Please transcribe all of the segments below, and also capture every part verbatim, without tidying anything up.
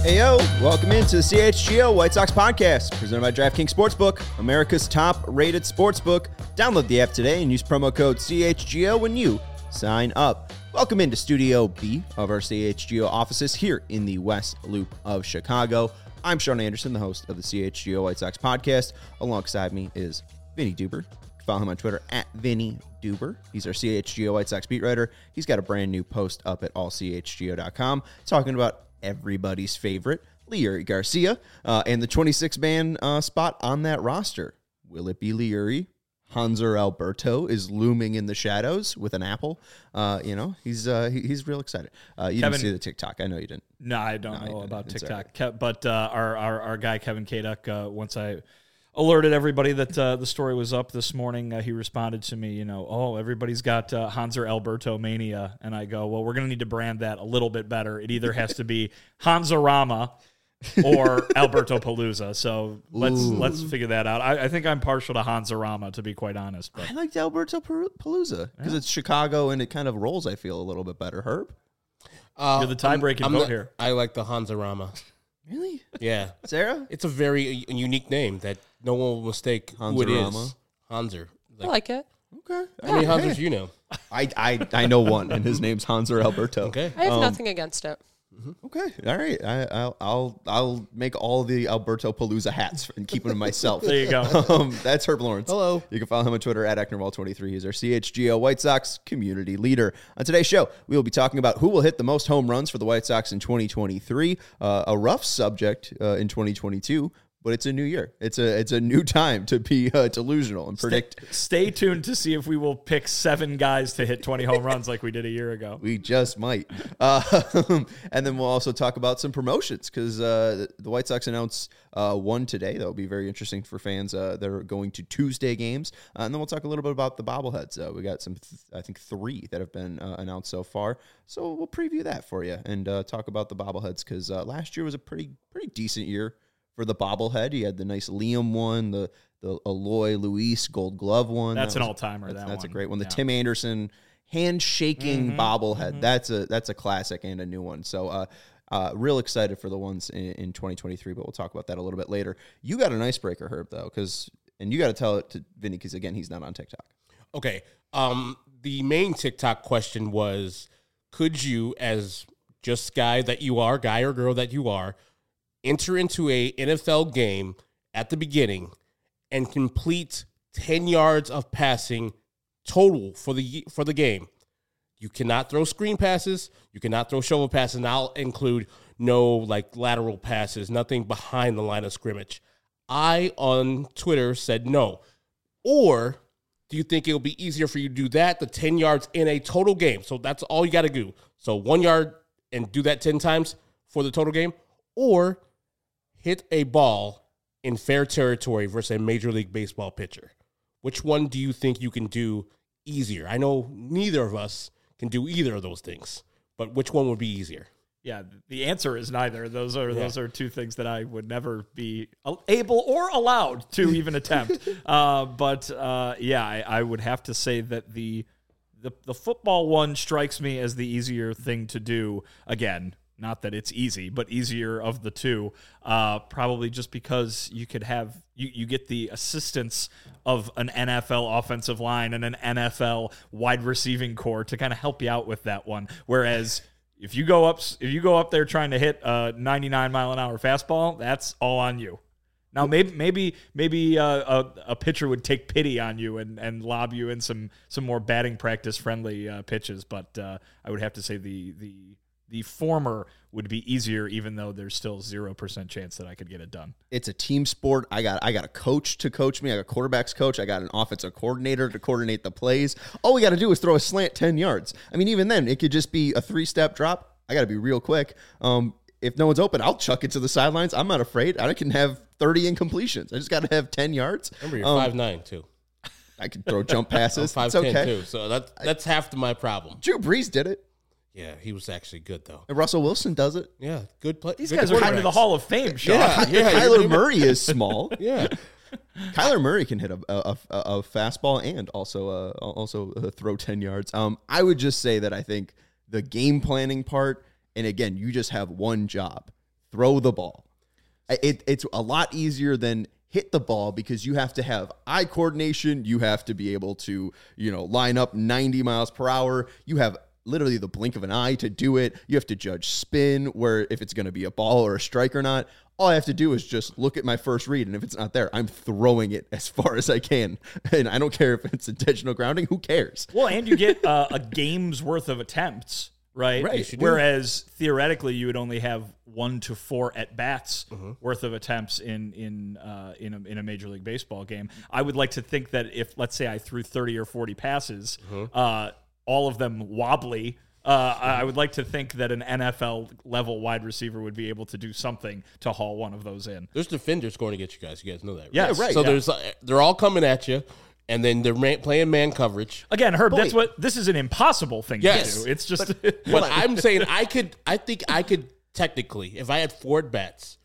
Hey, yo, welcome into the C H G O White Sox podcast, presented by DraftKings Sportsbook, America's top-rated sportsbook. Download the app today and use promo code C H G O when you sign up. Welcome into Studio B of our C H G O offices here in the West Loop of Chicago. I'm Sean Anderson, the host of the C H G O White Sox podcast. Alongside me is Vinny Duber. Follow him on Twitter at Vinny Duber. He's our C H G O White Sox beat writer. He's got a brand new post up at all c h g o dot com talking about everybody's favorite, Leury Garcia, uh, and the twenty-six man uh, spot on that roster. Will it be Leury? Hanser Alberto is looming in the shadows with an apple. Uh, you know, he's uh, he, he's real excited. Uh, you Kevin, didn't see the TikTok. I know you didn't. No, I don't no, know about it's TikTok. right. Ke- but uh, our, our our guy, Kevin Kaduk, uh, once I alerted everybody that uh, the story was up this morning, uh, he responded to me, you know, oh, everybody's got uh, Hanser Alberto mania. And I go, well, we're going to need to brand that a little bit better. It either has to be Hanserama or Alberto Palooza. So let's Ooh. let's figure that out. I, I think I'm partial to Hanserama, to be quite honest. But I liked Alberto Par- Palooza because yeah. it's Chicago and it kind of rolls, I feel, a little bit better. Herb? Uh, You're the tie-breaking vote the, here. I like the Hanserama. Really? Yeah. Sarah? It's a very unique name that no one will mistake who it is. Hanser. Like, I like it. Okay. How many Hansers you know? I, I I know one, and his name's Hanser Alberto. Okay. I have um, nothing against it. Okay. All right. I, I'll I'll I'll make all the Alberto Palooza hats and keep them myself. There you go. Um, that's Herb Lawrence. Hello. You can follow him on Twitter at Ecknerwall twenty-three. He's our C H G O White Sox community leader. On today's show, we will be talking about who will hit the most home runs for the White Sox in twenty twenty-three. Uh, a rough subject uh, in twenty twenty-two. But it's a new year. It's a it's a new time to be uh, delusional and predict. Stay, stay tuned to see if we will pick seven guys to hit twenty home runs like we did a year ago. We just might. Uh, and then we'll also talk about some promotions because uh, the White Sox announced uh, one today. That will be very interesting for fans uh, that are going to Tuesday games. Uh, and then we'll talk a little bit about the bobbleheads. Uh, we got some, th- I think, three that have been uh, announced so far. So we'll preview that for you and uh, talk about the bobbleheads because uh, last year was a pretty pretty decent year for the bobblehead. You had the nice Liam one, the the Eloy Luis Gold Glove one. That's that an was, all-timer, That's, that that's one. a great one. The Yeah. Tim Anderson handshaking mm-hmm, bobblehead. Mm-hmm. That's a that's a classic and a new one. So uh, uh, real excited for the ones in, in twenty twenty-three, but we'll talk about that a little bit later. You got an icebreaker, Herb, though, because and you got to tell it to Vinny because, again, he's not on TikTok. Okay. Um, the main TikTok question was, could you, as just guy that you are, guy or girl that you are, enter into a N F L game at the beginning and complete ten yards of passing total for the for the game? You cannot throw screen passes. You cannot throw shovel passes. And I'll include no like lateral passes, nothing behind the line of scrimmage. I, on Twitter, said no. Or do you think it'll be easier for you to do that, the ten yards in a total game? So that's all you got to do. So one yard and do that ten times for the total game? Or hit a ball in fair territory versus a Major League Baseball pitcher? Which one do you think you can do easier? I know neither of us can do either of those things, but which one would be easier? Yeah, the answer is neither. Those are Yeah. those are two things that I would never be able or allowed to even attempt. Uh, but uh, yeah, I, I would have to say that the, the the football one strikes me as the easier thing to do. Again, not that it's easy, but easier of the two. Uh, probably just because you could have you, you get the assistance of an N F L offensive line and an N F L wide receiving core to kind of help you out with that one. Whereas if you go up if you go up there trying to hit a ninety-nine mile an hour fastball, that's all on you. Now maybe maybe maybe uh, a, a pitcher would take pity on you and, and lob you in some some more batting practice friendly uh, pitches, but uh, I would have to say the the The former would be easier, even though there's still zero percent chance that I could get it done. It's a team sport. I got I got a coach to coach me. I got a quarterbacks coach. I got an offensive coordinator to coordinate the plays. All we got to do is throw a slant ten yards. I mean, even then, it could just be a three-step drop. I got to be real quick. Um, if no one's open, I'll chuck it to the sidelines. I'm not afraid. I can have thirty incompletions. I just got to have ten yards. Remember, you're um, five nine, too. I can throw jump passes. I'm It's five ten, okay. too. So that, that's half of my problem. Drew Brees did it. Yeah, he was actually good, though. And Russell Wilson does it. Yeah, good play. These good guys are going to the Hall of Fame, Sean. Yeah, yeah. Kyler Murray is small. Yeah. Kyler Murray can hit a, a, a, a fastball and also uh, also uh, throw ten yards. Um, I would just say that I think the game planning part, and again, you just have one job: throw the ball. It, it's a lot easier than hit the ball because you have to have eye coordination. You have to be able to, you know, line up ninety miles per hour. You have literally the blink of an eye to do it. You have to judge spin, where if it's going to be a ball or a strike or not. All I have to do is just look at my first read, and if it's not there, I'm throwing it as far as I can. And I don't care if it's intentional grounding. Who cares? Well, and you get uh, a game's worth of attempts, right? Right, you do. Whereas theoretically, you would only have one to four at bats Mm-hmm. worth of attempts in in uh, in a, in a Major League Baseball game. I would like to think that if, let's say, I threw thirty or forty passes, Mm-hmm. uh, all of them wobbly. Uh, I would like to think that an N F L level wide receiver would be able to do something to haul one of those in. There's defenders going to get you guys. You guys know that, right? Yes. Yeah, right. So Yeah. there's uh, they're all coming at you, and then they're man, playing man coverage. Again, Herb, But that's wait. what this is an impossible thing Yes. to do. It's just But I'm saying I could. I think I could technically, if I had four at bats,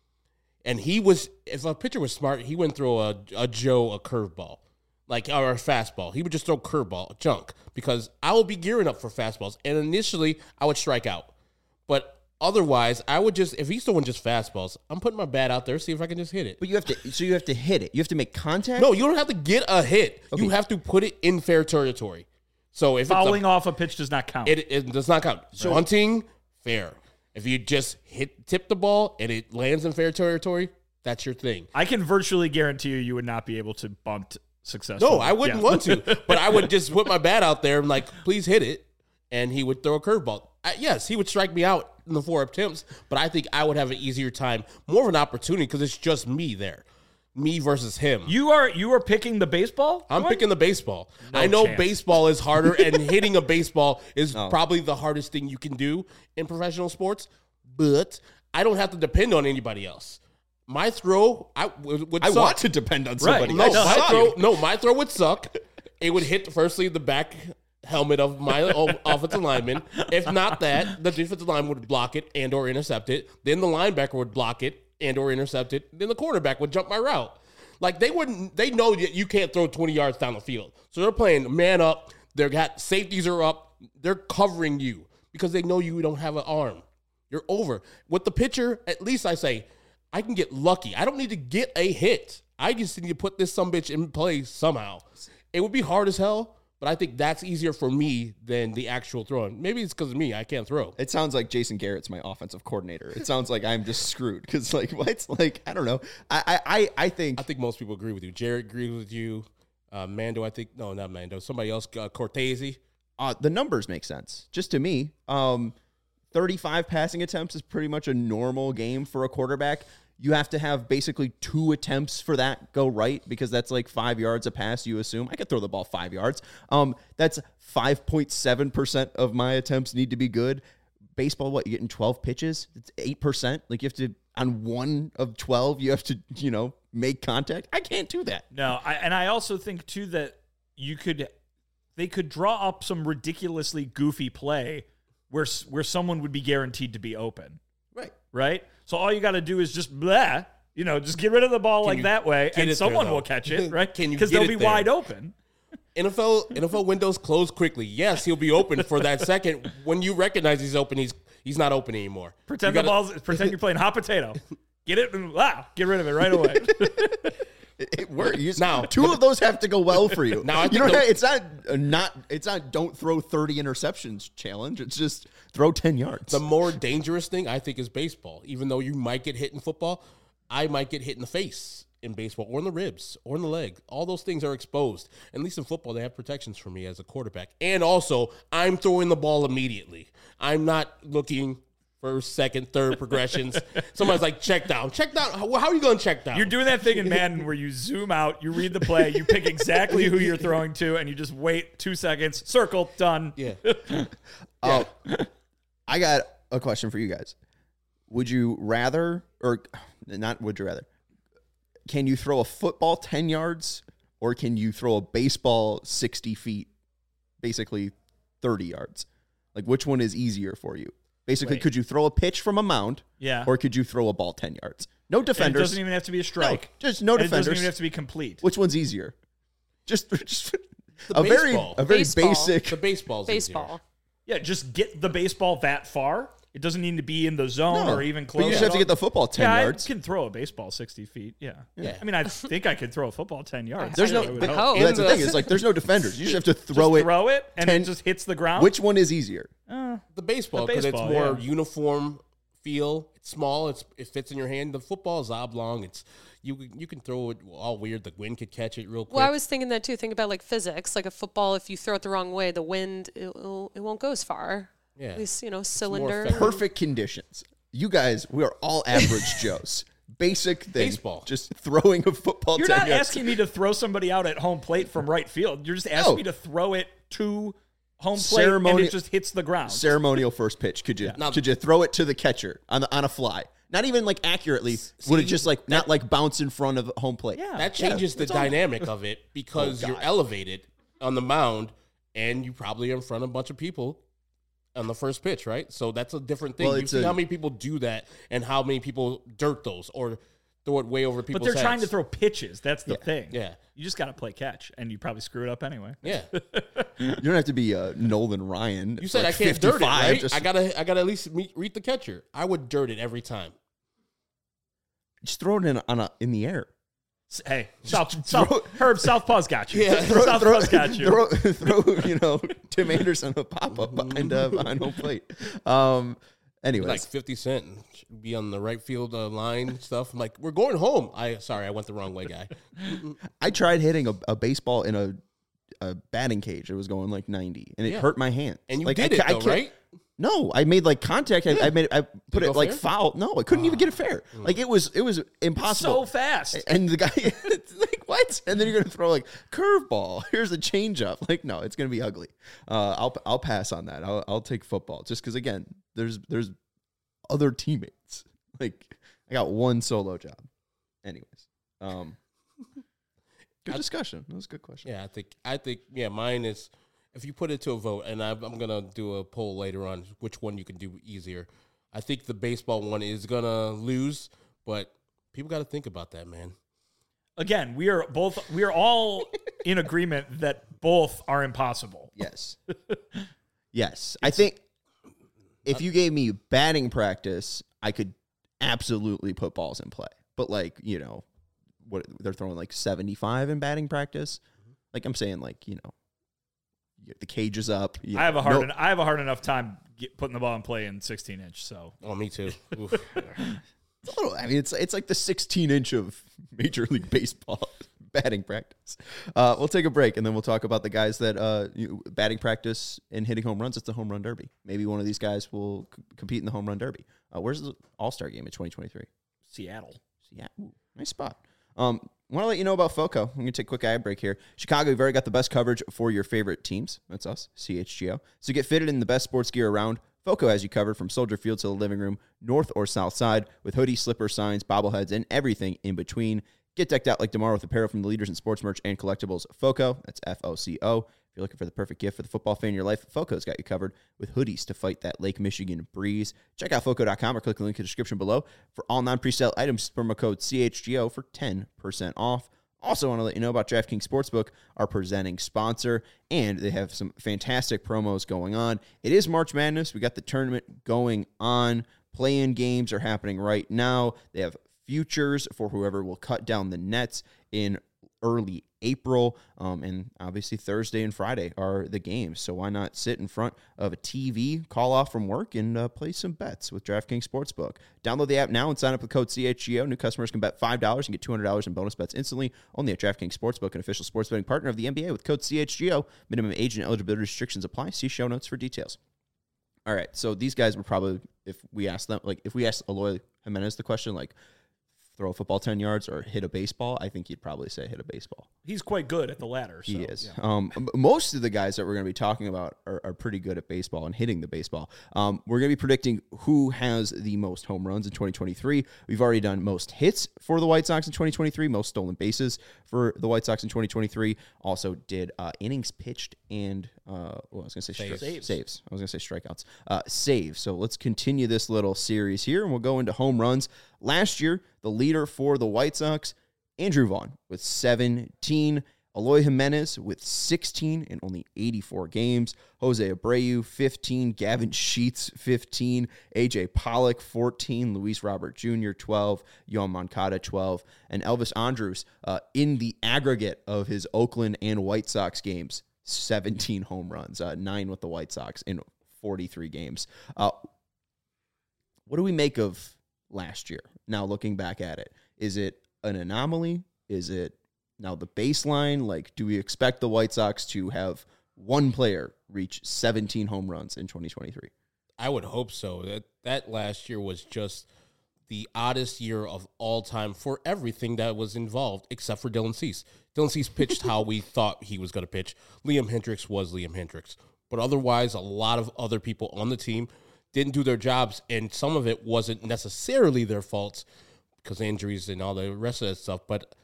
and he was, if a pitcher was smart, he wouldn't throw a, a Joe a curveball, like or a fastball. He would just throw curveball junk because I will be gearing up for fastballs, and initially I would strike out, but otherwise I would just if he's throwing just fastballs, I'm putting my bat out there see if I can just hit it. But you have to, so you have to hit it. You have to make contact. No, you don't have to get a hit. You have to put it in fair territory. So if fouling it's a, off a pitch does not count. it, it does not count. So hunting, fair. If you just hit tip the ball and it lands in fair territory, that's your thing. I can virtually guarantee you, you would not be able to bunt successfully. No, I wouldn't Yeah. want to, but I would just put my bat out there and like, please hit it, and he would throw a curveball. I, yes, he would strike me out in the four attempts, but I think I would have an easier time, more of an opportunity because it's just me there, me versus him. You are you are picking the baseball? I'm one? picking the baseball. No I know chance. baseball is harder, and hitting a baseball is probably the hardest thing you can do in professional sports, but I don't have to depend on anybody else. My throw, I would, would I suck. want to depend on somebody. No, I my saw throw, you. no, my throw would suck. It would hit firstly the back helmet of my o- offensive lineman. If not that, the defensive line would block it and or intercept it. Then the linebacker would block it and or intercept it. Then the quarterback would jump my route. Like they wouldn't, they know that you can't throw twenty yards down the field. So they're playing man up. They're got safeties are up. They're covering you because they know you don't have an arm. You're over. With the pitcher, at least I say, I can get lucky. I don't need to get a hit. I just need to put this sumbitch in play somehow. It would be hard as hell, but I think that's easier for me than the actual throwing. Maybe it's because of me. I can't throw. It sounds like Jason Garrett's my offensive coordinator. It sounds like I'm just screwed because, like, what's like I don't know. I I I think I think most people agree with you. Jared agrees with you. Uh, Mando, I think no, not Mando. Somebody else, uh, Cortese. uh, the numbers make sense. Just to me, um, thirty-five passing attempts is pretty much a normal game for a quarterback. You have to have basically two attempts for that go right because that's like five yards a pass, you assume. I could throw the ball five yards. Um, that's five point seven percent of my attempts need to be good. Baseball, what, you're getting twelve pitches? It's eight percent. Like you have to, on one of twelve, you have to, you know, make contact. I can't do that. No, I, and I also think too that you could, they could draw up some ridiculously goofy play where s- where someone would be guaranteed to be open, Right. right? So all you got to do is just blah, you know, just get rid of the ball like you that way, get and it there, someone though? will catch it, right? Can you Because get they'll it be there? wide open. N F L N F L windows close quickly. Yes, he'll be open for that second. When you recognize he's open, he's he's not open anymore. Pretend You the gotta- ball's. Pretend you're playing hot potato. Get it and wow, get rid of it right away. It, it works. You just- Now- two of those have to go well for you. Now, I you think know, the- it's not uh, not it's not don't throw thirty interceptions challenge. It's just throw ten yards. The more dangerous thing I think is baseball. Even though you might get hit in football, I might get hit in the face in baseball or in the ribs or in the leg. All those things are exposed. At least in football, they have protections for me as a quarterback. And also, I'm throwing the ball immediately. I'm not looking first, second, third progressions. Somebody's like, check down. Check down. How, how are you going to check down? You're doing that thing in Madden where you zoom out, you read the play, you pick exactly who you're throwing to, and you just wait two seconds, circle, done. yeah. Oh, I got a question for you guys. Would you rather, or not? Would you rather? Can you throw a football ten yards, or can you throw a baseball sixty feet, basically thirty yards? Like, which one is easier for you? Basically, Wait. could you throw a pitch from a mound, Yeah. or could you throw a ball ten yards? No And it defenders. doesn't even have to be a strike. No, just no And it doesn't defenders. even have to be complete. Which one's easier? Just, just The a very baseball. a very Baseball. The basic. baseball's easier. Baseball. Yeah, just get the baseball that far. It doesn't need to be in the zone No, or even but close. you just have to get the football ten yeah, yards. I can throw a baseball sixty feet. Yeah. Yeah. I mean, I think I could throw a football ten yards. There's no. I would But hope. hope. that's the In thing. the- Is like there's no defenders. You just have to Just throw it. throw it, and ten it just hits the ground. Which one is easier? Uh, The baseball, The because it's baseball, more yeah. uniform feel. It's small. It's it fits in your hand. The football is oblong. It's you. You can throw it all weird. The wind could catch it real quick. Well, I was thinking that too. Think about like physics. Like a football, if you throw it the wrong way, the wind it, it'll, it won't go as far. yeah. At least you know more cylinder. effective. Perfect conditions. You guys, we are all average Joes. Basic thing. Baseball. Just throwing a football. You're ten not yards. asking me to throw somebody out at home plate from right field. You're just asking No. me to throw it to home plate, Ceremoni- and it just hits the ground. ceremonial first pitch. Could you Now- could you throw it to the catcher on the on a fly? Not even like accurately. Would it See, just like not like bounce in front of home plate? Yeah. That changes Yeah, the it's all- dynamic of it because Oh, you're God. elevated on the mound and you probably are in front of a bunch of people on the first pitch, right? So that's a different thing. Well, you it's see a- how many people do that and how many people dirt those or throw it way over but people's they're trying to heads. throw pitches. That's the Yeah. thing. Yeah. You just got to play catch, and you probably screw it up anyway. Yeah. You don't have to be uh, Nolan Ryan. You said like I can't dirt it, fifty-five, right? Just, I gotta I gotta at least meet, read the catcher. I would dirt it every time. just throw it in on a, in the air. S- Hey, South, throw- South, Herb, Southpaw's got you. Yeah. Throw, Southpaw's got you. throw, throw, you know, Tim Anderson a pop up behind uh, behind home plate. Um. Anyways, Like fifty Cent and be on the right field uh, line and stuff. I'm like, we're going home. I sorry, I went the wrong way, guy. I tried hitting a, a baseball in a a batting cage. It was going like ninety, and it Yeah. hurt my hand. And you like, did I, it ca- I though, can't- right? No, I made like contact. I, I made. I put it it go like fair? foul. No, I couldn't even get it fair. Mm. Like it was. It was So impossible. fast. And the guy, it's like, what? And then you're gonna throw like curveball. Here's a changeup. Like, no, it's gonna be ugly. Uh, I'll I'll pass on that. I'll I'll take football just because again, there's there's other teammates. Like I got one solo job. Anyways, um, good discussion. That was a good question. Yeah, I think I think yeah, mine is if you put it to a vote, and I, I'm gonna do a poll later on which one you can do easier. I think the baseball one is gonna lose, but people got to think about that, man. Again, we are both. We are all in agreement that both are impossible. Yes. Yes. I think if you gave me batting practice, I could absolutely put balls in play. But like, you know, what they're throwing like seventy-five in batting practice. Like I'm saying like, you know, the cage is up. you I have a know, hard. no- en- I have a hard enough time get, putting the ball in play in sixteen inch. So Oh, me too. Oof. It's a little- I mean, it's it's like the sixteen inch of Major League Baseball batting practice. Uh, we'll take a break and then we'll talk about the guys that uh, you, batting practice and hitting home runs. It's the home run derby. Maybe one of these guys will c- compete in the home run derby. Uh, where's the All Star game in twenty twenty-three? Seattle. Yeah, Ooh, nice spot. Um, want to let you know about FOCO. I'm going to take a quick ad break here. Chicago, we've already got the best coverage for your favorite teams. That's us, C H G O. So get fitted in the best sports gear around. FOCO has you covered from Soldier Field to the living room, north or south side, with hoodies, slippers, signs, bobbleheads, and everything in between. Get decked out like tomorrow with apparel from the leaders in sports merch and collectibles. FOCO, that's F O C O. If you're looking for the perfect gift for the football fan in your life, FOCO's got you covered with hoodies to fight that Lake Michigan breeze. Check out foco dot com or click the link in the description below. For all non-presale items, promo code C H G O for ten percent off. Also want to let you know about DraftKings Sportsbook, our presenting sponsor, and they have some fantastic promos going on. It is March Madness. We got the tournament going on. Play-in games are happening right now. They have futures for whoever will cut down the nets in early April, um, and obviously Thursday and Friday are the games. So why not sit in front of a T V, call off from work, and uh, play some bets with DraftKings Sportsbook? Download the app now and sign up with code C H G O. New customers can bet five dollars and get two hundred dollars in bonus bets instantly. Only at DraftKings Sportsbook, an official sports betting partner of the N B A with code C H G O. Minimum age and eligibility restrictions apply. See show notes for details. All right, so these guys would probably, if we asked them, like if we asked Eloy Jimenez the question, like throw a football ten yards or hit a baseball, I think he'd probably say hit a baseball. He's quite good at the latter. So, He is. yeah. Um, m- most of the guys that we're going to be talking about are, are pretty good at baseball and hitting the baseball. Um, we're going to be predicting who has the most home runs in twenty twenty-three. We've already done most hits for the White Sox in twenty twenty-three, most stolen bases for the White Sox in twenty twenty-three. Also did uh, innings pitched and, uh, well, I was going to say Saves. stri- Saves. saves. I was going to say strikeouts. Uh, saves. So let's continue this little series here, and we'll go into home runs. Last year, the leader for the White Sox, Andrew Vaughn, with seventeen. Eloy Jimenez with sixteen in only eighty-four games. Jose Abreu, fifteen. Gavin Sheets, fifteen. A J Pollock, fourteen. Luis Robert Junior, twelve. Yoan Moncada, twelve. And Elvis Andrus, uh, in the aggregate of his Oakland and White Sox games, seventeen home runs, uh, nine with the White Sox in forty-three games. Uh, what do we make of last year? Now, looking back at it, is it an anomaly? Is it now the baseline? Like, do we expect the White Sox to have one player reach seventeen home runs in twenty twenty-three? I would hope so. That that last year was just the oddest year of all time for everything that was involved, except for Dylan Cease. Dylan Cease pitched how we thought he was going to pitch. Liam Hendriks was Liam Hendriks. But otherwise, a lot of other people on the team didn't do their jobs, and some of it wasn't necessarily their faults because injuries and all the rest of that stuff. But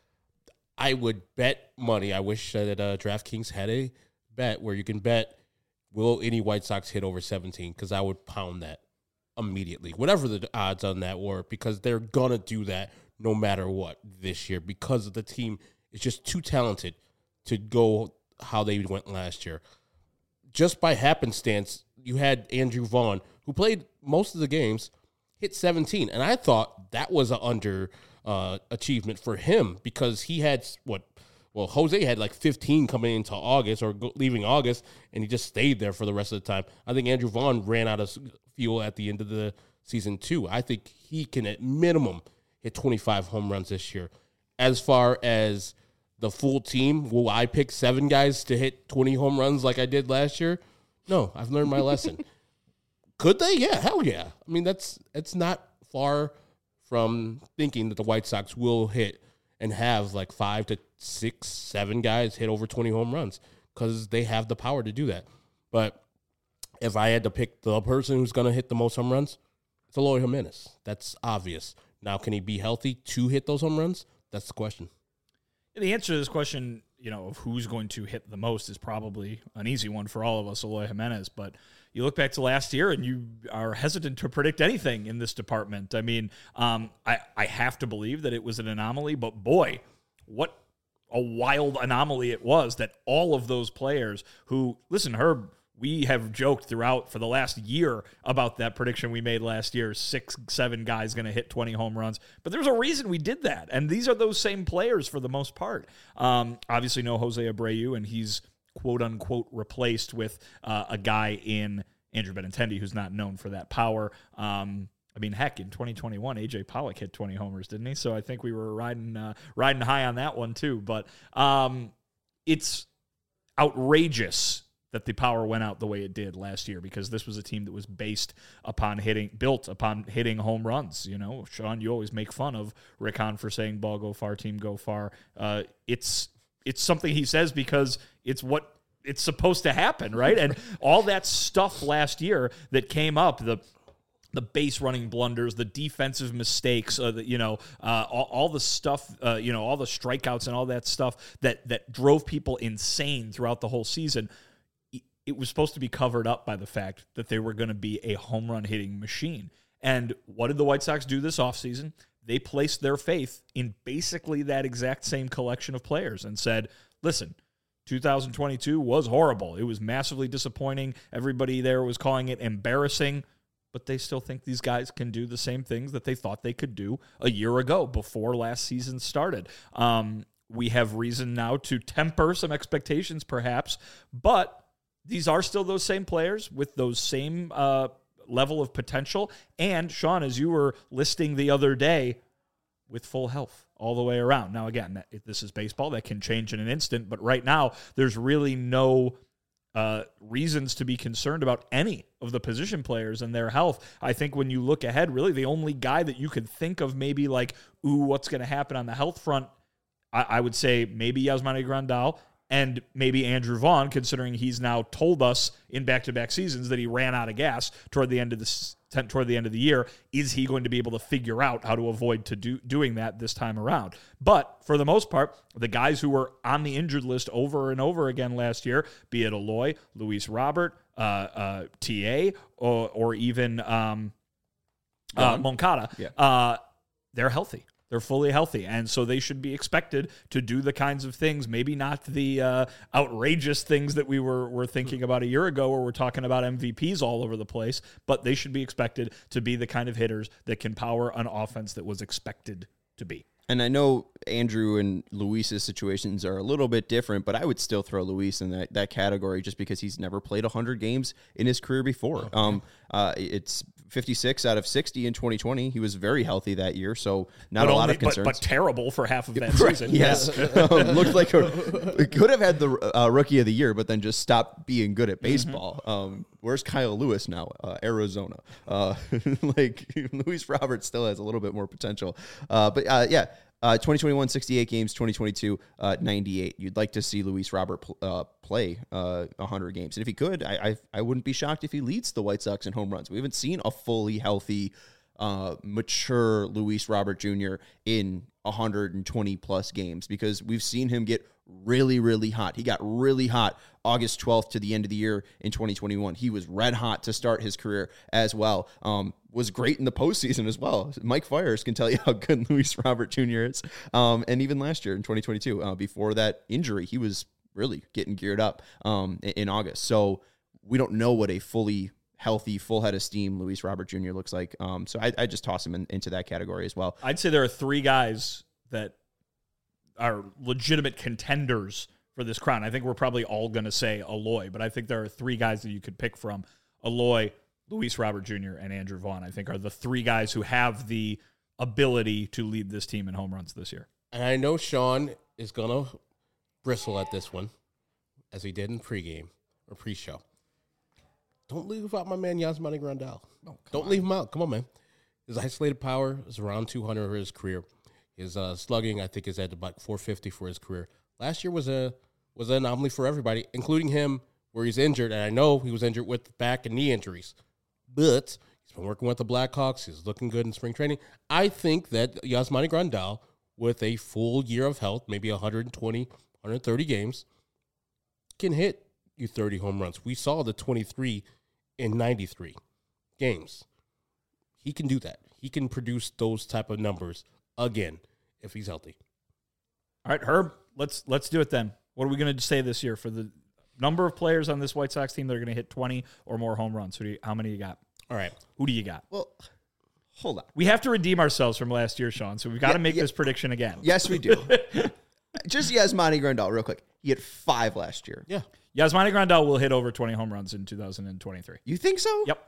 I would bet money. I wish that uh, DraftKings had a bet where you can bet, will any White Sox hit over seventeen? Because I would pound that immediately, whatever the odds on that were, because they're going to do that no matter what this year because the team is just too talented to go how they went last year. Just by happenstance, you had Andrew Vaughn, who played most of the games, hit seventeen. And I thought that was an under uh, achievement for him because he had, what, well, Jose had like fifteen coming into August or go, leaving August, and he just stayed there for the rest of the time. I think Andrew Vaughn ran out of fuel at the end of the season, too. I think he can, at minimum, hit twenty-five home runs this year. As far as the full team, will I pick seven guys to hit twenty home runs like I did last year? No, I've learned my lesson. Could they? Yeah, hell yeah. I mean, that's it's not far from thinking that the White Sox will hit and have like five to six, seven guys hit over twenty home runs because they have the power to do that. But if I had to pick the person who's going to hit the most home runs, it's Eloy Jimenez. That's obvious. Now, can he be healthy to hit those home runs? That's the question. The answer to this question, you know, of who's going to hit the most is probably an easy one for all of us, Eloy Jimenez. But you look back to last year and you are hesitant to predict anything in this department. I mean, um, I, I have to believe that it was an anomaly, but boy, what a wild anomaly it was that all of those players who, listen, Herb, we have joked throughout for the last year about that prediction we made last year, six, seven guys going to hit twenty home runs. But there's a reason we did that, and these are those same players for the most part. Um, obviously, no Jose Abreu, and he's quote-unquote replaced with uh, a guy in Andrew Benintendi who's not known for that power. Um, I mean, heck, in twenty twenty-one, A J Pollock hit twenty homers, didn't he? So I think we were riding uh, riding high on that one too. But um, it's outrageous that the power went out the way it did last year because this was a team that was based upon hitting, built upon hitting home runs. You know, Sean, you always make fun of Rick Hahn for saying ball go far, team go far. Uh, it's it's something he says because it's what it's supposed to happen, right? And all that stuff last year that came up, the the base running blunders, the defensive mistakes, uh, the, you know, uh, all, all the stuff, uh, you know, all the strikeouts and all that stuff that that drove people insane throughout the whole season. It was supposed to be covered up by the fact that they were going to be a home run hitting machine. And what did the White Sox do this offseason? They placed their faith in basically that exact same collection of players and said, listen, two thousand twenty-two was horrible. It was massively disappointing. Everybody there was calling it embarrassing, but they still think these guys can do the same things that they thought they could do a year ago before last season started. Um, we have reason now to temper some expectations perhaps, but these are still those same players with those same uh, level of potential. And, Sean, as you were listing the other day, with full health all the way around. Now, again, that, if this is baseball. That can change in an instant. But right now, there's really no uh, reasons to be concerned about any of the position players and their health. I think when you look ahead, really the only guy that you could think of maybe like, ooh, what's going to happen on the health front, I, I would say maybe Yasmani Grandal. And maybe Andrew Vaughn, considering he's now told us in back-to-back seasons that he ran out of gas toward the end of the toward the end of the year. Is he going to be able to figure out how to avoid to do doing that this time around? But for the most part, the guys who were on the injured list over and over again last year, be it Eloy, Luis Robert, uh, uh, T A, or, or even um, uh, Moncada, yeah. uh, they're healthy. They're fully healthy, and so they should be expected to do the kinds of things, maybe not the uh, outrageous things that we were, were thinking about a year ago where we're talking about M V Ps all over the place, but they should be expected to be the kind of hitters that can power an offense that was expected to be. And I know Andrew and Luis's situations are a little bit different, but I would still throw Luis in that, that category just because he's never played one hundred games in his career before. Okay. Um, uh, it's fifty-six out of sixty in twenty twenty. He was very healthy that year, so not but a only, lot of concerns. But, but terrible for half of that right, season. Yes. um, looked like a, it could have had the uh, rookie of the year, but then just stopped being good at baseball. Mm-hmm. Um, where's Kyle Lewis now? Uh, Arizona. Uh, like Luis Robert still has a little bit more potential. Uh, but uh, yeah. Uh, twenty twenty-one, sixty-eight games, twenty twenty-two, uh, ninety-eight. You'd like to see Luis Robert pl- uh, play uh, one hundred games. And if he could, I, I I wouldn't be shocked if he leads the White Sox in home runs. We haven't seen a fully healthy, uh, mature Luis Robert Junior in one hundred twenty plus games because we've seen him get really, really hot. He got really hot August twelfth to the end of the year in twenty twenty-one. He was red hot to start his career as well. Um, was great in the postseason as well. Mike Fires can tell you how good Luis Robert Junior is. Um, and even last year in twenty twenty-two, uh, before that injury, he was really getting geared up um, in, in August. So we don't know what a fully healthy, full head of steam Luis Robert Junior looks like. Um, so I, I just toss him in, into that category as well. I'd say there are three guys that are legitimate contenders for this crown. I think we're probably all going to say Eloy, but I think there are three guys that you could pick from. Eloy, Luis Robert Junior, and Andrew Vaughn, I think, are the three guys who have the ability to lead this team in home runs this year. And I know Sean is going to bristle at this one, as he did in pregame or pre-show. Don't leave out my man Yasmani Grandal. Oh, Don't on. leave him out. Come on, man. His isolated power is around two hundred for his career. His uh, slugging, I think, is at about four fifty for his career. Last year was a was an anomaly for everybody, including him, where he's injured. And I know he was injured with back and knee injuries. But he's been working with the Blackhawks. He's looking good in spring training. I think that Yasmani Grandal, with a full year of health, maybe one hundred twenty, one hundred thirty games, can hit you thirty home runs. We saw the twenty-three in ninety-three games. He can do that. He can produce those type of numbers again if he's healthy. All right, Herb, let's let's do it then. What are we going to say this year for the number of players on this White Sox team that are going to hit twenty or more home runs? Who do you, how many you got? All right. Who do you got? Well, hold on. We have to redeem ourselves from last year, Sean, so we've got Yeah, to make yeah. this prediction again. Yes, we do. Just Yasmani Grandal, real quick. He hit five last year. Yeah. Yasmani Grandal will hit over twenty home runs in two thousand twenty-three. You think so? Yep.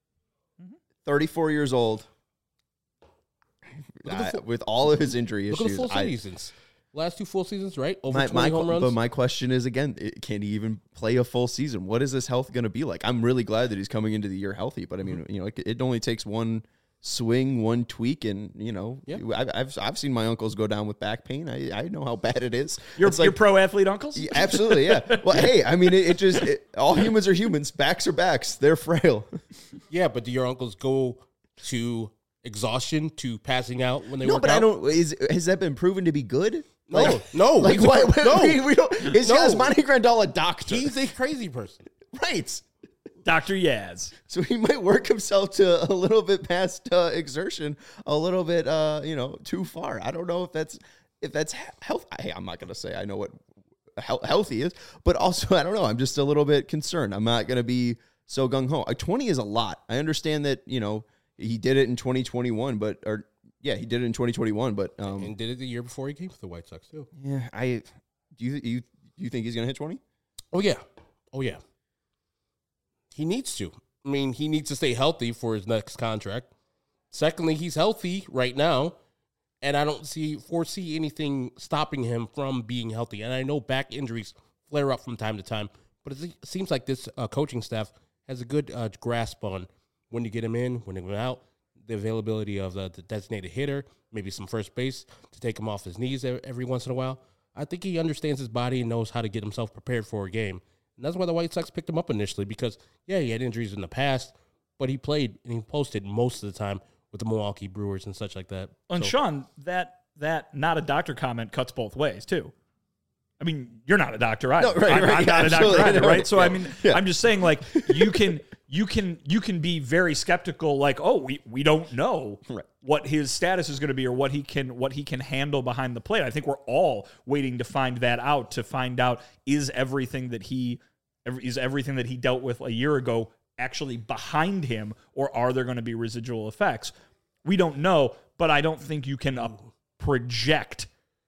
thirty-four years old. Look at the Uh, full- with all of his injury Look issues. at the full I- seasons. Last two full seasons, right? Over my, twenty my, home runs. But my question is, again, it, can he even play a full season? What is his health going to be like? I'm really glad that he's coming into the year healthy, but I mean, you know, it, it only takes one swing, one tweak, and, you know, Yeah. I've, I've I've seen my uncles go down with back pain. I, I know how bad it is. Your, It's your like, pro athlete uncles? yeah, absolutely, yeah. Well, hey, I mean, it, it just, it, all humans are humans. Backs are backs. They're frail. Yeah, but do your uncles go to exhaustion, to passing out when they No, work but out? I don't, is, has that been proven to be good? No, Like- no. Like, we why, don't- no. we, we don't, is No. Yasmani Grandal a doctor? He's a crazy person. right. Doctor Yaz. So he might work himself to a little bit past uh, exertion, a little bit, uh, you know, too far. I don't know if that's if that's health. Hey, I'm not going to say I know what he- healthy is, but also I don't know. I'm just a little bit concerned. I'm not going to be so gung ho. Uh, twenty is a lot. I understand that, you know, he did it in twenty twenty-one, but or yeah, he did it in twenty twenty-one, but um, And did it the year before he came to the White Sox, too. yeah, I do you you you think he's going to hit twenty? Oh, yeah. Oh, yeah. He needs to. I mean, he needs to stay healthy for his next contract. Secondly, he's healthy right now, and I don't see foresee anything stopping him from being healthy. And I know back injuries flare up from time to time, but it seems like this uh, coaching staff has a good uh, grasp on when to get him in, when to get him out, the availability of the, the designated hitter, maybe some first base to take him off his knees every once in a while. I think he understands his body and knows how to get himself prepared for a game. And that's why the White Sox picked him up initially, because, yeah, he had injuries in the past, but he played and he posted most of the time with the Milwaukee Brewers and such like that. And So- Sean, that that not a doctor comment cuts both ways, too. I mean, you're not a doctor either. No, right, I'm, right, I'm yeah, not a doctor absolutely. either, No, right? So yeah. I mean, Yeah. I'm just saying, like, you can you can you can be very skeptical, like, oh, we, we don't know Right. what his status is going to be or what he can what he can handle behind the plate. I think we're all waiting to find that out, to find out is everything that he is everything that he dealt with a year ago actually behind him, or are there going to be residual effects? We don't know, but I don't think you can uh, project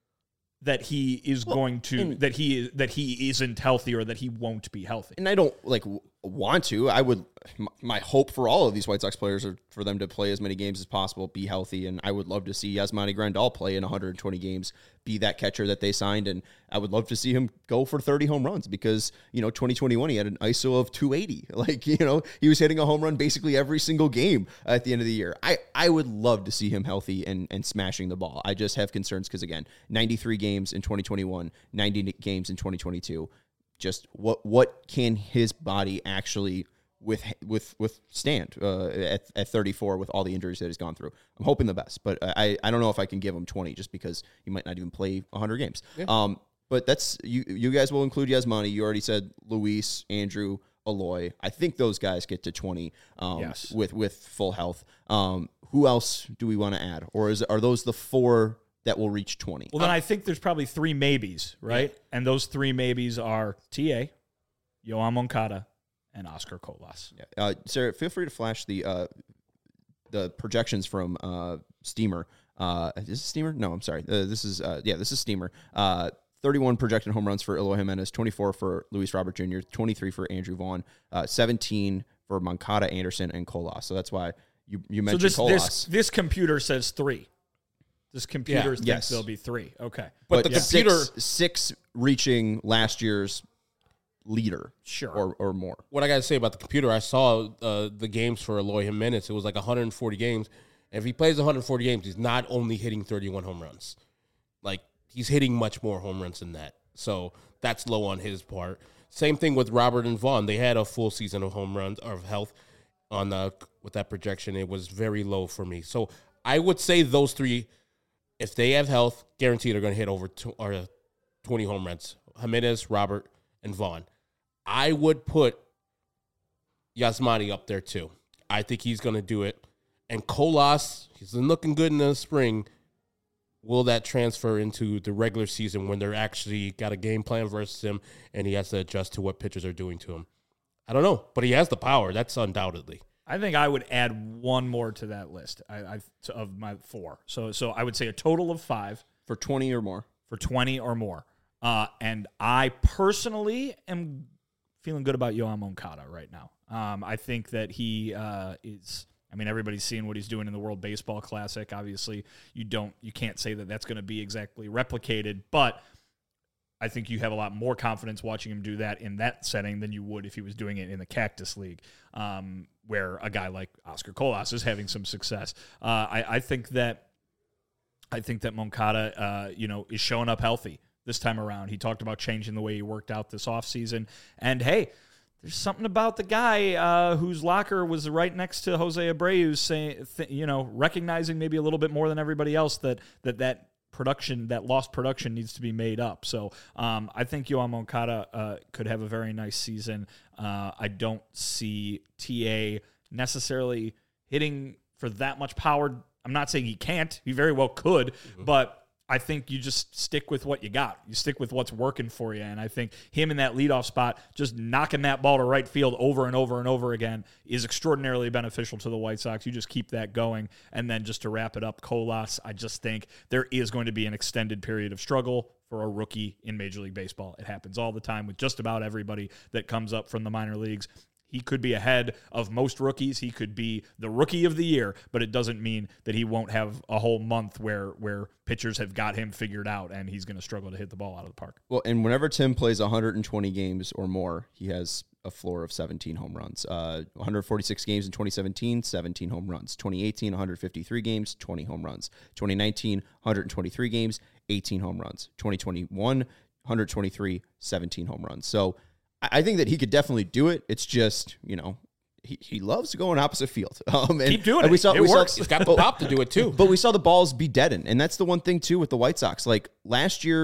that he is Well, going to and- that he is that he isn't healthy or that he won't be healthy. And I don't like w- want to. I would. m- My hope for all of these White Sox players are for them to play as many games as possible, be healthy, and I would love to see Yasmani Grandal play in one hundred twenty games, be that catcher that they signed, and I would love to see him go for thirty home runs because you know twenty twenty-one he had an I S O of two eighty. Like you know he was hitting a home run basically every single game at the end of the year. I I would love to see him healthy and and smashing the ball. I just have concerns because again, ninety-three games in twenty twenty-one, ninety games in twenty twenty-two. Just what what can his body actually with with withstand uh, at at thirty-four with all the injuries that he's gone through? I'm hoping the best, but I I don't know if I can give him twenty just because he might not even play one hundred games. Yeah. Um, but that's you you guys will include Yasmani. You already said Luis, Andrew, Eloy. I think those guys get to twenty. Um, Yes. with with full health. Um, who else do we want to add, or is are those the four that will reach twenty? Well, then I think there's probably three maybes, right? And those three maybes are T A, Yoan Moncada, and Oscar Colas. Yeah. Uh, Sarah, feel free to flash the uh, the projections from uh, Steamer. Uh, is this Steamer? No, I'm sorry. Uh, this is uh, yeah, this is Steamer. Uh, thirty-one projected home runs for Eloy Jimenez, twenty-four for Luis Robert Junior, twenty-three for Andrew Vaughn, uh, seventeen for Moncada, Anderson, and Colas. So that's why you you So mentioned this, Colas. this this computer says three. This computer Yeah. thinks Yes. there'll be three. Okay. But but the computer- six, six reaching last year's leader, Sure. or or more. What I got to say about the computer, I saw uh, the games for Eloy Jimenez. It was like one hundred forty games. And if he plays one hundred forty games, he's not only hitting thirty-one home runs. Like, he's hitting much more home runs than that. So that's low on his part. Same thing with Robert and Vaughn. They had a full season of home runs, or of health on the, with that projection. It was very low for me. So I would say those three, if they have health, guaranteed are going to hit over two, or twenty home runs. Jimenez, Robert, and Vaughn. I would put Yasmani up there too. I think he's going to do it. And Colas, he's been looking good in the spring. Will that transfer into the regular season when they're actually got a game plan versus him and he has to adjust to what pitchers are doing to him? I don't know, but he has the power. That's undoubtedly. I think I would add one more to that list I, I, of my four. So so I would say a total of five For twenty or more. for twenty or more. Uh, and I personally am feeling good about Yoan Moncada right now. Um, I think that he uh, is. I mean, everybody's seeing what he's doing in the World Baseball Classic. Obviously, you don't, you can't say that that's going to be exactly replicated, but I think you have a lot more confidence watching him do that in that setting than you would if he was doing it in the Cactus League, um, where a guy like Oscar Colas is having some success. Uh, I, I think that, I think that Moncada, uh, you know, is showing up healthy this time around. He talked about changing the way he worked out this offseason. And hey, there's something about the guy uh, whose locker was right next to Jose Abreu's, saying, th- you know, recognizing maybe a little bit more than everybody else that that that production, that lost production, needs to be made up. So um, I think Yoan Moncada uh, could have a very nice season. Uh, I don't see T A necessarily hitting for that much power. I'm not saying he can't. He very well could, mm-hmm. but I think you just stick with what you got. You stick with what's working for you. And I think him in that leadoff spot, just knocking that ball to right field over and over and over again, is extraordinarily beneficial to the White Sox. You just keep that going. And then just to wrap it up, Colas, I just think there is going to be an extended period of struggle for a rookie in Major League Baseball. It happens all the time with just about everybody that comes up from the minor leagues. He could be ahead of most rookies. He could be the rookie of the year, but it doesn't mean that he won't have a whole month where where pitchers have got him figured out and he's going to struggle to hit the ball out of the park. Well, and whenever Tim plays one hundred twenty games or more, he has a floor of seventeen home runs. Uh, one hundred forty-six games in twenty seventeen, seventeen home runs. twenty eighteen, one hundred fifty-three games, twenty home runs. twenty nineteen, one hundred twenty-three games, eighteen home runs. twenty twenty-one, one hundred twenty-three, seventeen home runs. So I think that he could definitely do it. It's just, you know, he, he loves to go in opposite field. Um, and, Keep doing and we it. saw, It we works. Saw, He's got the pop to do it too. But we saw the balls be deadened, and that's the one thing, too, with the White Sox. Like, last year,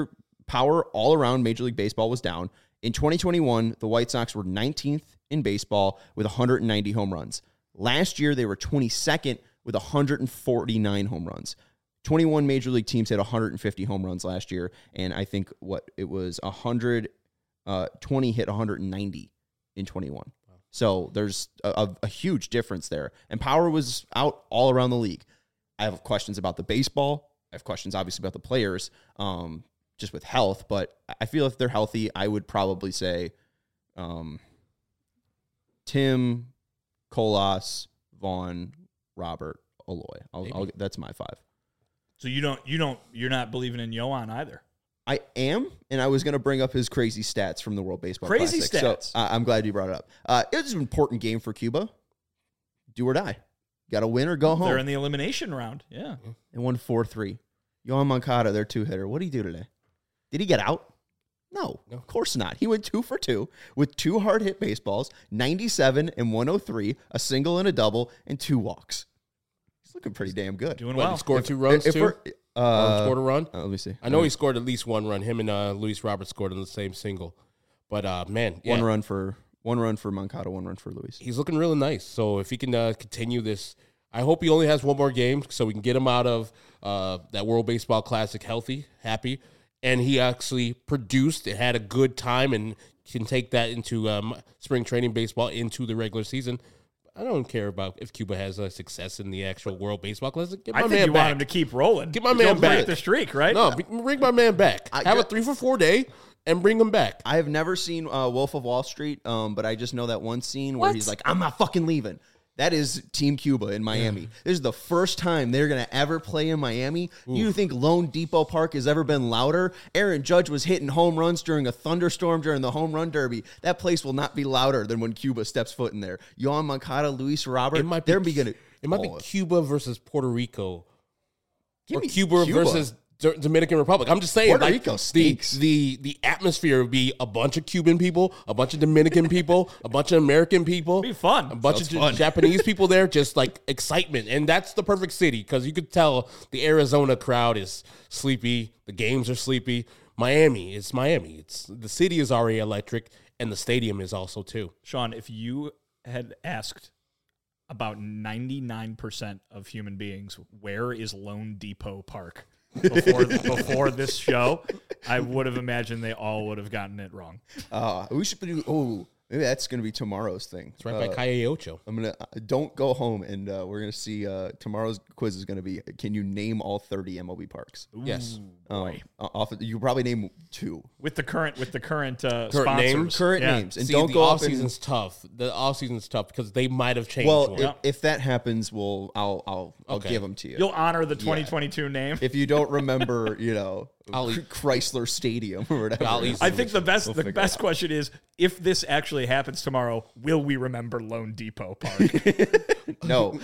power all around Major League Baseball was down. In twenty twenty-one, the White Sox were nineteenth in baseball with one hundred ninety home runs. Last year, they were twenty-second with one hundred forty-nine home runs. twenty-one Major League teams had one hundred fifty home runs last year, and I think what it was one hundred twenty hit one hundred ninety in twenty-one. Wow. So there's a, a, a huge difference there, and power was out all around the league. I have questions about the baseball. I have questions, obviously, about the players, um, just with health. But I feel if they're healthy, I would probably say um, Tim, Colas, Vaughn, Robert, Eloy. I'll, I'll, that's my five. So you don't, you don't, you're not believing in Yohan either. I am, and I was going to bring up his crazy stats from the World Baseball Crazy Classic. stats. So uh, I'm glad you brought it up. Uh, it was an important game for Cuba. Do or die. Got to win or go home. They're in the elimination round. Yeah. They won four three. Yohan Moncada, their two-hitter. What did he do today? Did he get out? No, no, of course not. He went two for two with two hard-hit baseballs, ninety-seven and one oh three, a single and a double, and two walks. He's looking pretty damn good. Doing What, well. he scored If- two runs, if too? we're- Uh, scored a run? uh, let me see. I know he scored at least one run. Him and uh, Luis Robert scored in the same single. But, uh, man, yeah. One run for one run for Moncada, one run for Luis. He's looking really nice. So if he can uh, continue this, I hope he only has one more game so we can get him out of uh, that World Baseball Classic healthy, happy. And he actually produced and had a good time and can take that into um, spring training baseball into the regular season. I don't care about if Cuba has a success in the actual World Baseball Classic. Get my I think man you back. want him to keep rolling. Get my man Don't break back. the streak, right? No, bring my man back. I- Have a three for four day and bring him back. I have never seen uh, Wolf of Wall Street, um, but I just know that one scene where What? he's like, I'm not fucking leaving. That is Team Cuba in Miami. Yeah. This is the first time they're going to ever play in Miami. Oof. You think Lone Depot Park has ever been louder? Aaron Judge was hitting home runs during a thunderstorm during the home run derby. That place will not be louder than when Cuba steps foot in there. Yohan Moncada, Luis Robert, It might be, they're beginning. It might oh. be Cuba versus Puerto Rico. Give or me Cuba, Cuba. versus D- Dominican Republic. I'm just saying, Puerto like, Rico the, stinks. the the atmosphere would be a bunch of Cuban people, a bunch of Dominican people, a bunch of American people. It'd be fun. A bunch Sounds of fun. Japanese people there, just like excitement. And that's the perfect city because you could tell the Arizona crowd is sleepy. The games are sleepy. Miami, it's Miami. It's the city is already electric, and the stadium is also too. Sean, if you had asked about ninety-nine percent of human beings, where is Lone Depot Park before before this show, I would have imagined they all would have gotten it wrong. Uh, we should do, oh, maybe that's going to be tomorrow's thing. It's right uh, by Calle Ocho. I'm gonna uh, don't go home, and uh, we're gonna see. Uh, tomorrow's quiz is gonna be: can you name all thirty M L B parks? Yes. Um, off, you can probably name two With the current with the current uh, Current sponsors. names? current Yeah. names, and See, don't the go off off. And, season's tough. The off season's tough because they might have changed. well, one. if, if that happens, we'll I'll I'll I'll Okay. give them to you. You'll honor the twenty twenty-two name. if you don't remember, you know, I'll eat- Chrysler Stadium or whatever. I'll eat I think the best We'll the figure best it out. question is if this actually happens tomorrow, will we remember Lone Depot Park? No,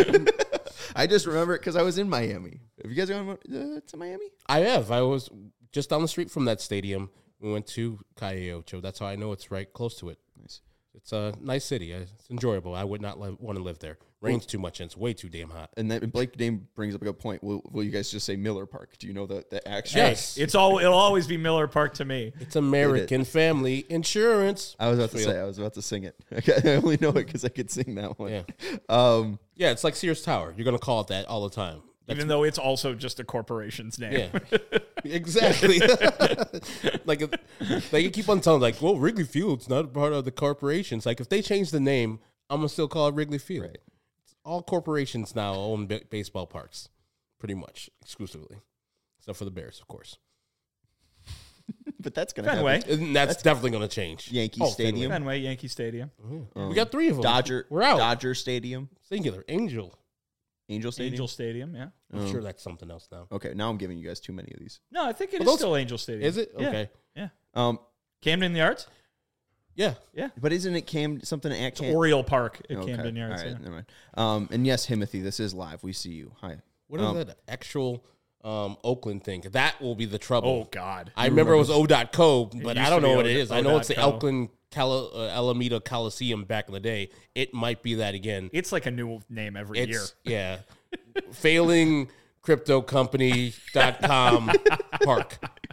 I just remember it because I was in Miami. Have you guys gone uh, to Miami? I have. I was just down the street from that stadium. We went to Calle Ocho. That's how I know it's right close to it. Nice. It's a nice city. It's enjoyable. I would not li- want to live there. Rains too much and it's way too damn hot. And that Blake Dame brings up a good point. Will, will you guys just say Miller Park? Do you know the the actual? Yes. It's all it'll always be Miller Park to me. It's American Family Insurance. I was about to Field. say. I was about to sing it. I only know it because I could sing that one. Yeah. Um. Yeah, it's like Sears Tower. You're going to call it that all the time. That's- Even though it's also just a corporation's name. Yeah, exactly. like, if- like you keep on telling, like, well, Wrigley Field's not part of the corporations. Like, if they change the name, I'm gonna still call it Wrigley Field. Right. All corporations now own b- baseball parks, pretty much exclusively, except for the Bears, of course. But that's gonna Fenway. happen. And that's, definitely gonna change. Yankee Oh, Stadium. Fenway, Yankee Stadium. Fenway. we got three of them. Dodger. We're out. Dodger Stadium. Singular. Angel. Angel Stadium. Angel Stadium, yeah. I'm sure that's something else now. Okay, now I'm giving you guys too many of these. No, I think it Are is those- still Angel Stadium. Is it? Yeah. Okay. Yeah. Um, Camden Yards? Yeah. Yeah. but isn't it Cam something at It's Cam? Oriole Park at Okay, Camden Yards. All right, yeah. never mind. Um, and yes, Himothy, this is live. We see you. Hi. What is Um, that actual um, Oakland thing? That will be the trouble. Oh, God. I remember it was O dot co, but used I to don't know be what O- it is. I know it's the O dot co. Oakland Cali- uh, Alameda Coliseum back in the day. It might be that again. It's like a new name every year. It's yeah, failing crypto company dot com park.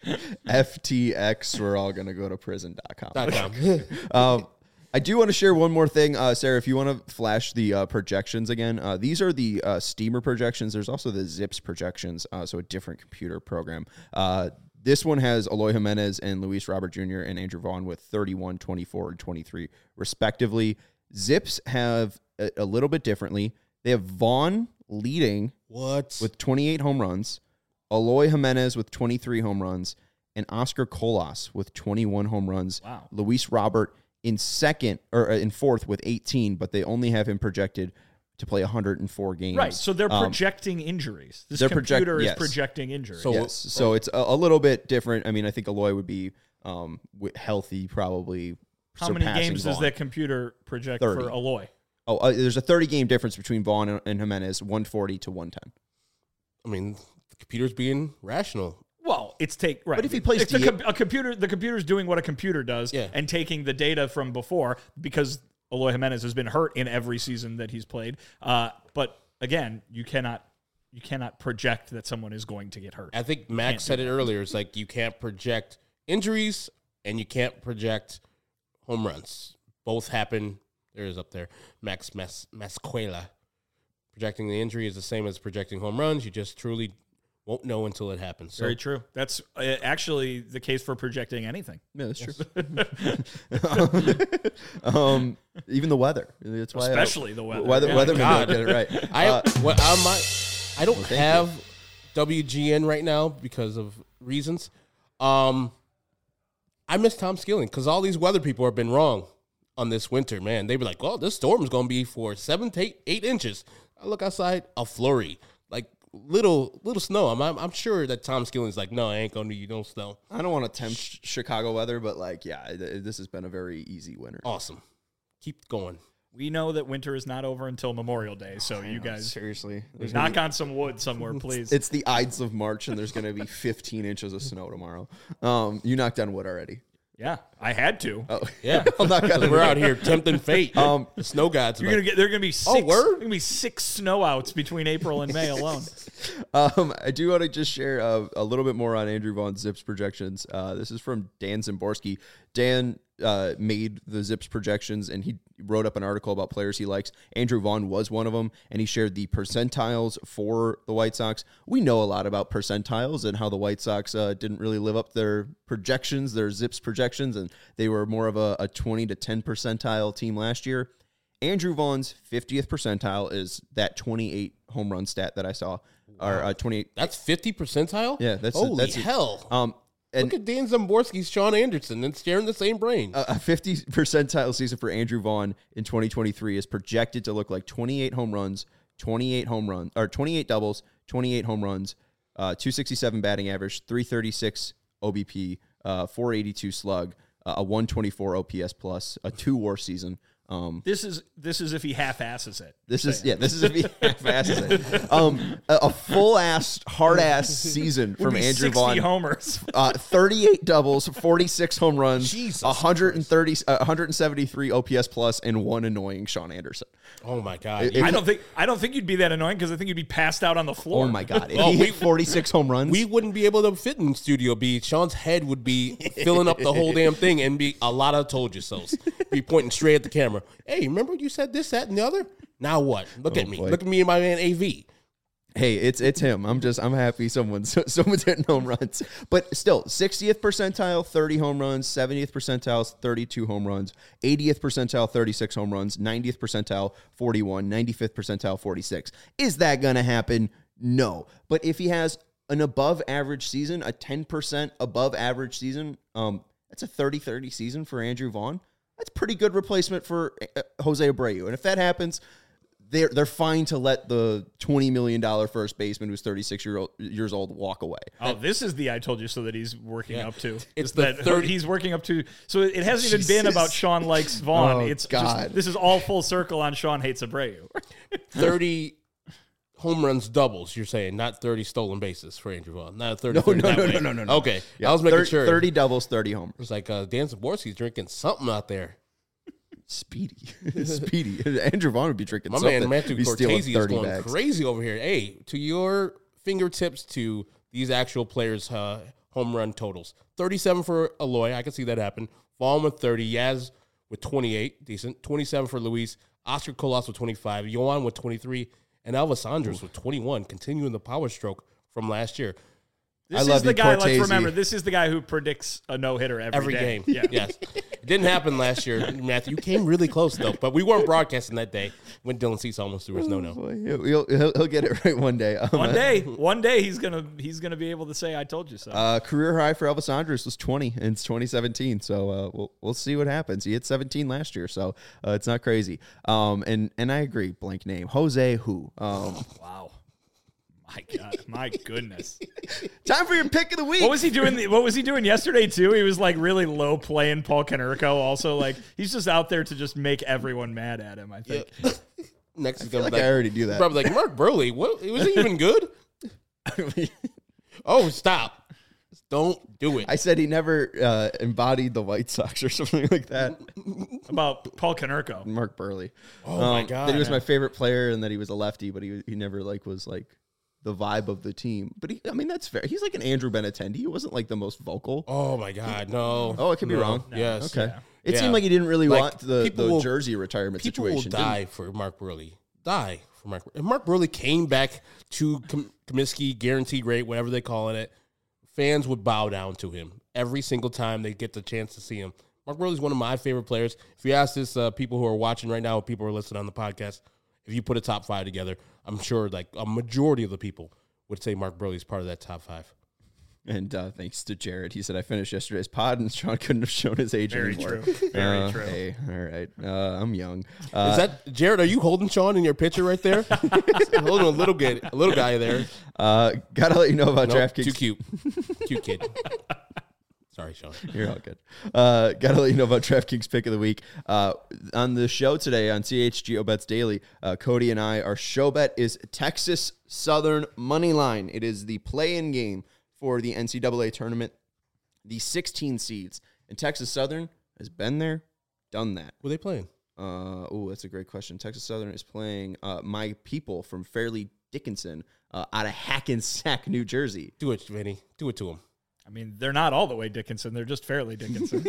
F T X, we're all going to go to prison dot com. Dot com. um, I do want to share one more thing, uh, Sarah, if you want to flash the uh, projections again. Uh, these are the uh, Steamer projections. There's also the Zips projections, uh, so a different computer program. Uh, this one has Eloy Jimenez and Luis Robert Junior and Andrew Vaughn with thirty-one, twenty-four, and twenty-three, respectively. Zips have a, a little bit differently. They have Vaughn leading What? with twenty-eight home runs, Eloy Jimenez with twenty-three home runs, and Oscar Colas with twenty-one home runs. Wow. Luis Robert in second or in fourth with eighteen, but they only have him projected to play one hundred four games. Right, so they're Um, projecting injuries. This they're project- computer is yes. projecting injuries. So- yes, so it's a, a little bit different. I mean, I think Eloy would be um, wi- healthy, probably. How many surpassing games does Vaughn. that computer project thirty. for Eloy? Oh, uh, there's a thirty game difference between Vaughn and, and Jimenez, one forty to one ten. I mean, the computer's being rational. Well, it's take right. But if he plays it's a, D- com- a computer, the computer's doing what a computer does, Yeah. and taking the data from before because Eloy Jimenez has been hurt in every season that he's played. Uh, but again, you cannot you cannot project that someone is going to get hurt. I think Max said it earlier. It's like you can't project injuries and you can't project home runs. Both happen. There is up there. Max Mas- Masquela. Projecting the injury is the same as projecting home runs. You just truly won't know until it happens. So Very true. That's uh, actually the case for projecting anything. Yeah, that's true. um, even the weather. That's why Especially the weather. Weather, Yeah. weathermen God. don't get it right. I Uh, what I might I don't thank have W G N right now because of reasons. Um, I miss Tom Skilling because all these weather people have been wrong on this winter. Man, they be like, "Well, this storm is going to be for seven to eight, eight inches." I look outside, a flurry, like little little snow. I'm I'm, I'm sure that Tom Skilling's like, "No, I ain't going to you no snow." I don't want to tempt sh- Chicago weather, but like, yeah, th- this has been a very easy winter. Awesome, keep going. We know that winter is not over until Memorial Day, so you guys Seriously, there's gonna knock be- on some wood somewhere, please. It's the Ides of March, and there's going to be fifteen inches of snow tomorrow. Um, you knocked on wood already. Yeah, I had to. Oh, Yeah, I'll knock on we're wood. out here tempting fate. Um, the snow gods. You're like, gonna get. There are gonna be six. Oh, word? There are gonna be six snowouts between April and May alone. Um, I do want to just share uh, a little bit more on Andrew Vaughn's Zips projections. Uh, this is from Dan Zimborski. Dan uh, made the Zips projections, and he wrote up an article about players he likes. Andrew Vaughn was one of them, and he shared the percentiles for the White Sox. We know a lot about percentiles and how the White Sox uh, didn't really live up their projections, their Zips projections, and they were more of a, a twenty to ten percentile team last year. Andrew Vaughn's fiftieth percentile is that twenty-eight home run stat that I saw, or uh, twenty-eight. that's fifty percentile. Yeah, that's holy that's it. hell. Um, and Look at Dan Zimborski's Sean Anderson and sharing the same brain. a fifty percentile season for Andrew Vaughn in twenty twenty-three is projected to look like twenty-eight home runs, twenty-eight home runs, or twenty-eight doubles, twenty-eight home runs, uh, two sixty-seven batting average, three thirty-six O B P, uh, four eighty-two slug, uh, a one twenty-four O P S plus, a two WAR season. Um, This is this is if he half asses it. This is yeah. This is if he half-asses it. Um, a, a full ass, hard ass season Would from be Andrew sixty Vaughn. homers. Uh, thirty-eight doubles, forty-six home runs, Jesus one hundred thirty, uh, one hundred seventy-three O P S plus, and one annoying Sean Anderson. Oh my god! It- You- I don't think I don't think you'd be that annoying because I think you'd be passed out on the floor. Oh my god! If Oh, he we- hit forty-six home runs, we wouldn't be able to fit in Studio B. Sean's head would be filling up the whole damn thing and be a lot of told you so's. Be pointing straight at the camera. Hey, remember you said this, that, and the other? Now what? Look Oh, at me. boy. Look at me and my man A V. hey, it's it's him. I'm just I'm happy someone's someone's hitting home runs. But still, sixtieth percentile, thirty home runs, seventieth percentile, thirty-two home runs, eightieth percentile, thirty-six home runs, ninetieth percentile, forty-one, ninety-fifth percentile, forty-six. Is that going to happen? No. But if he has an above average season, a ten percent above average season, um, that's a thirty thirty season for Andrew Vaughn. That's pretty good replacement for uh, Jose Abreu. And if that happens, they're they're fine to let the twenty million dollars first baseman who's thirty-six year old, years old walk away. Oh, this is the I told you so that he's working Yeah. up to. It's Is the that third- he's working up to. So it hasn't even been Jesus. about Sean likes Vaughn. Oh, it's God. just this is all full circle on Sean hates Abreu. thirty home runs doubles, you're saying, not thirty stolen bases for Andrew Vaughn. Not thirty. No, thirty no, that no, way. no, no, no, no. Okay. I was making thirty, sure. thirty doubles, thirty homers. It's like uh, Dan Zimborski's drinking something out there. Speedy. Speedy. Andrew Vaughn would be drinking My something. man Matthew He's stealing Cortese is thirty going bags. crazy over here. Hey, to your fingertips, to these actual players' uh, home run totals. thirty-seven for Eloy. I can see that happen. Vaughn with thirty. Yaz with twenty-eight. Decent. twenty-seven for Luis. Oscar Colas with twenty-five. Yohan with twenty-three. And Elvis Andres with twenty-one, continuing the power stroke from last year. This I is love the you, guy, Cortese. let's remember, this is the guy who predicts a no-hitter every, Every day. game. Yeah. Yes. It didn't happen last year, Matthew. You came really close, though. But we weren't broadcasting that day when Dylan Cease almost threw his no-no. Boy, he'll, he'll, he'll get it right one day. Um, One day, one day he's gonna he's gonna be able to say, "I told you so." Uh, career high for Elvis Andres was twenty in twenty seventeen. So uh, we'll we'll see what happens. He hit seventeen last year, so uh, it's not crazy. Um, and and I agree. Blank name, Jose who. Um, Wow, my God, my goodness. time for your pick of the week. What was he doing? What was he doing yesterday too? He was like really low playing Paul Konerko. Also, like he's just out there to just make everyone mad at him. I think. Next is I feel going like to be I already do that. Probably like, Mark Burley, what, was he even good? Oh, stop. Don't do it. I said he never uh, embodied the White Sox or something like that. About Paul Konerko. Mark Burley. Oh, my Um, God. That he was my favorite player and that he was a lefty, but he he never like was like the vibe of the team. But he, I mean, that's fair. He's like an Andrew Benintendi. He wasn't like the most vocal. Oh, my God. No. Oh, I could be No. wrong. Yes. Okay. Yeah. It Yeah. seemed like he didn't really Like, want the, people the will- jersey retirement People situation. will die for Mark Burley. Die for Mark. If Mark Burley came back to Com- Comiskey, guaranteed rate, whatever they call it, fans would bow down to him every single time they get the chance to see him. Mark Burley is one of my favorite players. If you ask this, uh, people who are watching right now, people who are listening on the podcast, if you put a top five together, I'm sure like a majority of the people would say Mark Burley is part of that top five. And uh, thanks to Jared, he said I finished yesterday's pod, and Sean couldn't have shown his age Very anymore. true. Very Uh, true. Hey, all right, uh, I'm young. Uh, Is that Jared? Are you holding Sean in your picture right there? Holding a little guy, a little guy there. uh, gotta let you know about Nope, DraftKings. too cute, cute kid. Sorry, Sean. You're all good. Uh, gotta let you know about DraftKings pick of the week. Uh, on the show today on C H G O Bets Daily, uh, Cody and I, our show bet is Texas Southern money line. It is the play-in game for the N C double A tournament. The sixteen seeds, and Texas Southern has been there, done that. Were they playing? Uh, oh, that's a great question. Texas Southern is playing uh, my people from Fairleigh Dickinson uh, out of Hackensack, New Jersey. Do it, Vinny. Do it to him. I mean, they're not all the way Dickinson. They're just fairly Dickinson.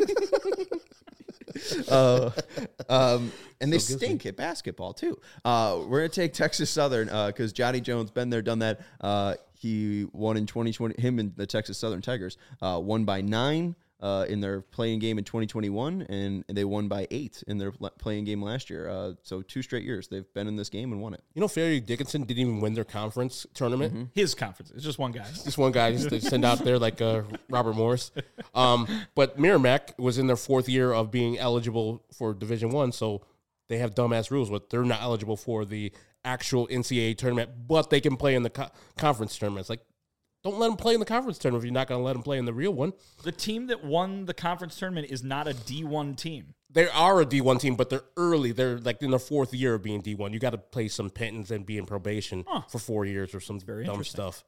uh, um, and they So stink at basketball too. Uh, we're gonna take Texas Southern because Johnny Jones been there, done that. Uh, he won in twenty twenty. Him and the Texas Southern Tigers uh, won by nine uh, in their playing game in twenty twenty-one, and, and they won by eight in their playing game last year. Uh, so two straight years they've been in this game and won it. You know, Fairleigh Dickinson didn't even win their conference tournament. His conference. It's just one guy. Just one guy just to send out there like uh, Robert Morris. Um, but Merrimack was in their fourth year of being eligible for Division One, so they have dumbass rules, but they're not eligible for the actual N C double A tournament, but they can play in the co- conference tournament. It's like, don't let them play in the conference tournament if you're not going to let them play in the real one. The team that won the conference tournament is not a D one team. They are a D one team, but they're early. They're like in their fourth year of being D one. You got to play some penance and be in probation Huh. for four years or some very dumb interesting. stuff.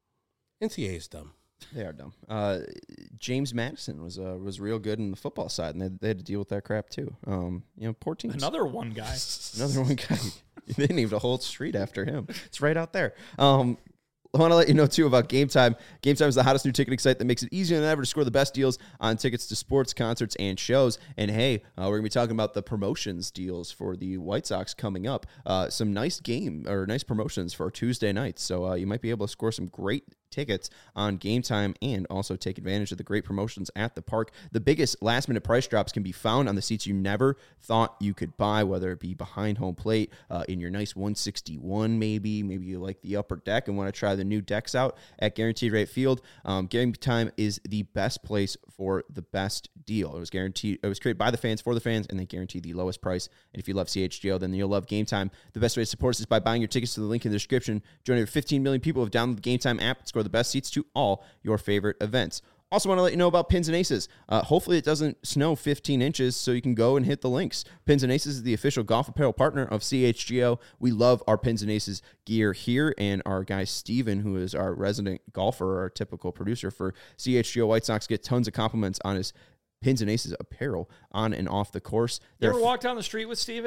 N C double A is dumb. They are dumb. Uh, James Madison was uh, was real good in the football side, and they, they had to deal with that crap too. Um, you know, poor teams. Another one guy. Another one guy. They named a whole street after him. It's right out there. Um, I want to let you know, too, about Game Time. Game Time is the hottest new ticketing site that makes it easier than ever to score the best deals on tickets to sports, concerts, and shows. And, hey, uh, we're going to be talking about the promotions deals for the White Sox coming up. Uh, some nice game or nice promotions for Tuesday nights. So uh, you might be able to score some great tickets on Game Time and also take advantage of the great promotions at the park. The biggest last-minute price drops can be found on the seats you never thought you could buy, whether it be behind home plate, uh, in your nice one sixty-one maybe. Maybe you like the upper deck and want to try the new decks out at Guaranteed Rate Field. Um, Game Time is the best place for the best deal. It was guaranteed. It was created by the fans for the fans, and they guarantee the lowest price. And if you love C H G O, then you'll love Game Time. The best way to support us is by buying your tickets to the link in the description. Join over fifteen million people who have downloaded the Game Time app and score the best seats to all your favorite events. Also want to let you know about Pins and Aces. Uh, hopefully it doesn't snow fifteen inches so you can go and hit the links. Pins and Aces is the official golf apparel partner of C H G O. We love our Pins and Aces gear here, and our guy Steven, who is our resident golfer, our typical producer for C H G O White Sox, get tons of compliments on his Pins and Aces apparel on and off the course. You They're ever walk down the street with Steven?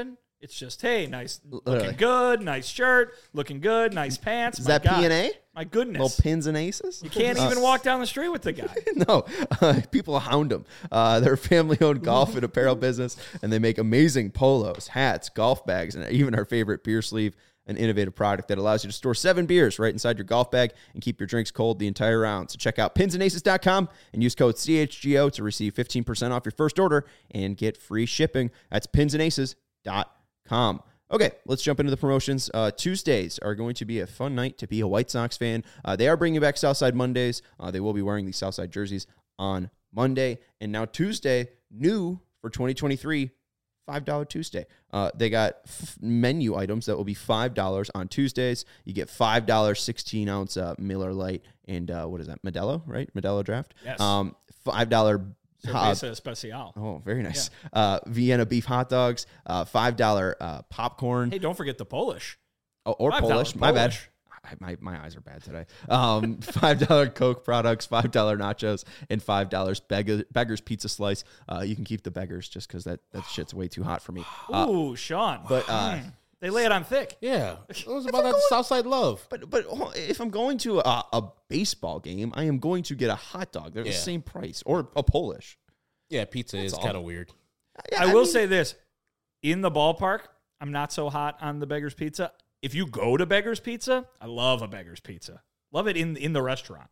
It's just, hey, nice, Literally. looking good, nice shirt, looking good, nice pants. Is My that God. P and A? My goodness. Little pins and aces? You can't Uh, even walk down the street with the guy. No, uh, people hound them. Uh, they're a family-owned golf and apparel business, and they make amazing polos, hats, golf bags, and even our favorite beer sleeve, an innovative product that allows you to store seven beers right inside your golf bag and keep your drinks cold the entire round. So check out pins and aces dot com and use code C H G O to receive fifteen percent off your first order and get free shipping. That's pins and aces dot com. Okay, let's jump into the promotions. Uh, Tuesdays are going to be a fun night to be a White Sox fan. Uh, they are bringing back Southside Mondays. Uh, they will be wearing the Southside jerseys on Monday. And now Tuesday, new for twenty twenty-three, five dollar Tuesday. Uh, they got f- menu items that will be five dollars on Tuesdays. You get five dollars sixteen-ounce uh, Miller Lite and uh, what is that, Modelo, right? Modelo Draft? Yes. Um, five dollars Uh, Cerveza Especial. oh, very nice. Uh, Vienna beef hot dogs, uh, five dollars uh, popcorn, Hey, don't forget the Polish. oh, or five dollars Polish. My bad. Polish. I, my, my eyes are bad today. Um, five dollars Coke products, five dollars nachos, and five dollars beggar, Beggar's Pizza Slice. Uh, you can keep the Beggars just because that, that shit's way too hot for me. Uh, Ooh, Sean. but uh, Mm. They lay it on thick. Yeah, it was about that Southside love. but but if I'm going to a, a baseball game, I am going to get a hot dog. They're Yeah. the same price, or a Polish. Yeah, pizza is all. kind of weird. Yeah, I will mean, say this. In the ballpark, I'm not so hot on the Beggar's Pizza. If you go to Beggar's Pizza, I love a Beggar's Pizza. Love it in in the restaurant.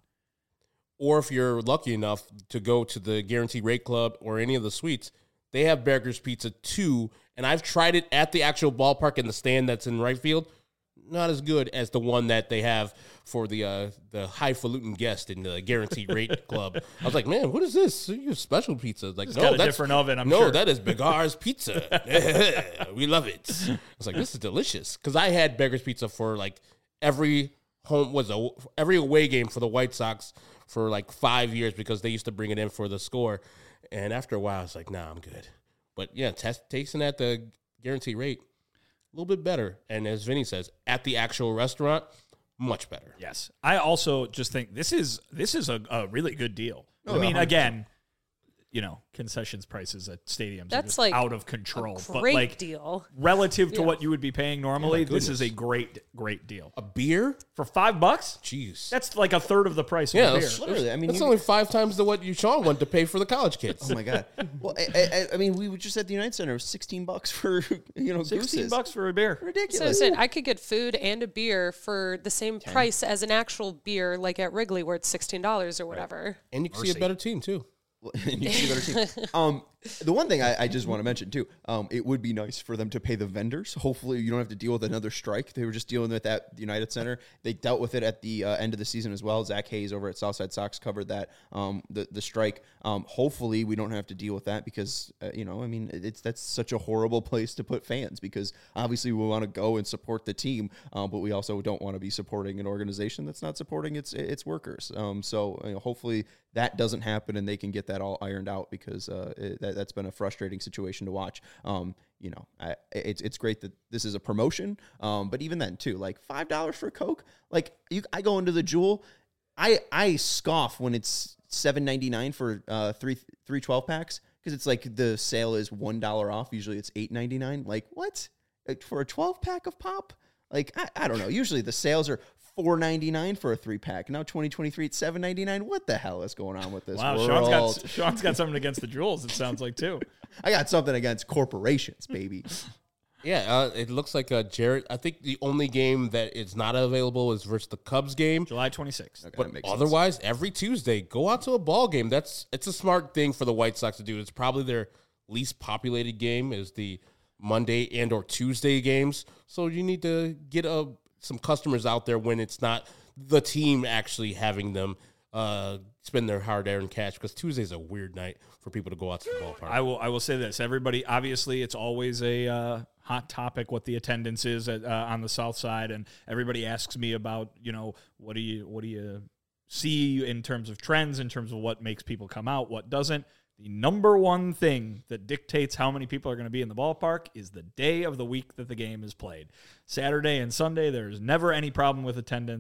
Or if you're lucky enough to go to the Guaranteed Rate Club or any of the suites, they have Beggar's Pizza too. And I've tried it at the actual ballpark in the stand that's in right field. Not as good as the one that they have for the uh, the highfalutin guest in the Guaranteed Rate Club. I was like, man, what is this? You have special pizza? Like, It's no, got a that's different oven, I'm no, sure. that is Begar's Pizza. We love it. I was like, this is delicious because I had Beggar's Pizza for like every home was a every away game for the White Sox for like five years because they used to bring it in for the score. And after a while, I was like, nah, I'm good. But yeah, test, tasting at the Guaranteed Rate, a little bit better. And as Vinny says, at the actual restaurant, much better. Yes. I also just think this is this is a, a really good deal. Oh, I mean, one hundred percent. again, you know, concessions prices at stadiums are That's just like out of control. But Great like deal. relative to Yeah. what you would be paying normally, this is a goodness. great, great deal. A beer? For five bucks? Jeez. That's like a third of the price of Yeah, a beer. that's- Literally, I mean, That's you- only five times the what you Sean wanted to pay for the college kids. Oh my god! Well, I, I, I mean, we were just at the United Center. It was sixteen bucks for you know Sixteen gooses. bucks for a beer. So I Ridiculous. said I could get food and a beer for the same price as an actual beer, like at Wrigley, where it's sixteen dollars or whatever. And you can see a better team too. And you see better team. Um, the one thing I, I just want to mention too, um, it would be nice for them to pay the vendors. Hopefully, you don't have to deal with another strike. They were just dealing with that at the United Center. They dealt with it at the uh, end of the season as well. Zach Hayes over at Southside Sox covered that um, the the strike. Um, hopefully, we don't have to deal with that because uh, you know, I mean, it's that's such a horrible place to put fans because obviously we want to go and support the team, um, but we also don't want to be supporting an organization that's not supporting its its workers. Um, so you know, hopefully that doesn't happen and they can get that all ironed out because uh, it, that, that's been a frustrating situation to watch. Um, you know, I, it's it's great that this is a promotion, um, but even then too, like five dollars for Coke. Like you, I go into the Jewel, I I scoff when it's seven ninety nine for uh, three three twelve packs because it's like the sale is one dollar off. Usually it's eight ninety nine. Like what for a twelve pack of pop? Like I, I don't know. Usually the sales are four ninety-nine for a three pack. Now twenty twenty-three it's seven ninety-nine. What the hell is going on with this Wow, world? Sean's got Sean's got something against the Jewels. It sounds like too. I got something against corporations, baby. Yeah, uh, it looks like uh, Jared. I think the only game that is not available is versus the Cubs game. July twenty-sixth. Okay, But that makes sense. otherwise, every Tuesday, go out to a ball game. That's it's a smart thing for the White Sox to do. It's probably their least populated game is the Monday and or Tuesday games. So you need to get uh, some customers out there when it's not the team actually having them uh, spend their hard-earned cash because Tuesday's a weird night for people to go out to the ballpark. I will. I will say this. Everybody, obviously, it's always a uh, hot topic what the attendance is at, uh, on the South Side, and everybody asks me about, you know, what do you what do you see in terms of trends, in terms of what makes people come out, what doesn't. The number one thing that dictates how many people are going to be in the ballpark is the day of the week that the game is played. Saturday and Sunday, there's never any problem with attendance.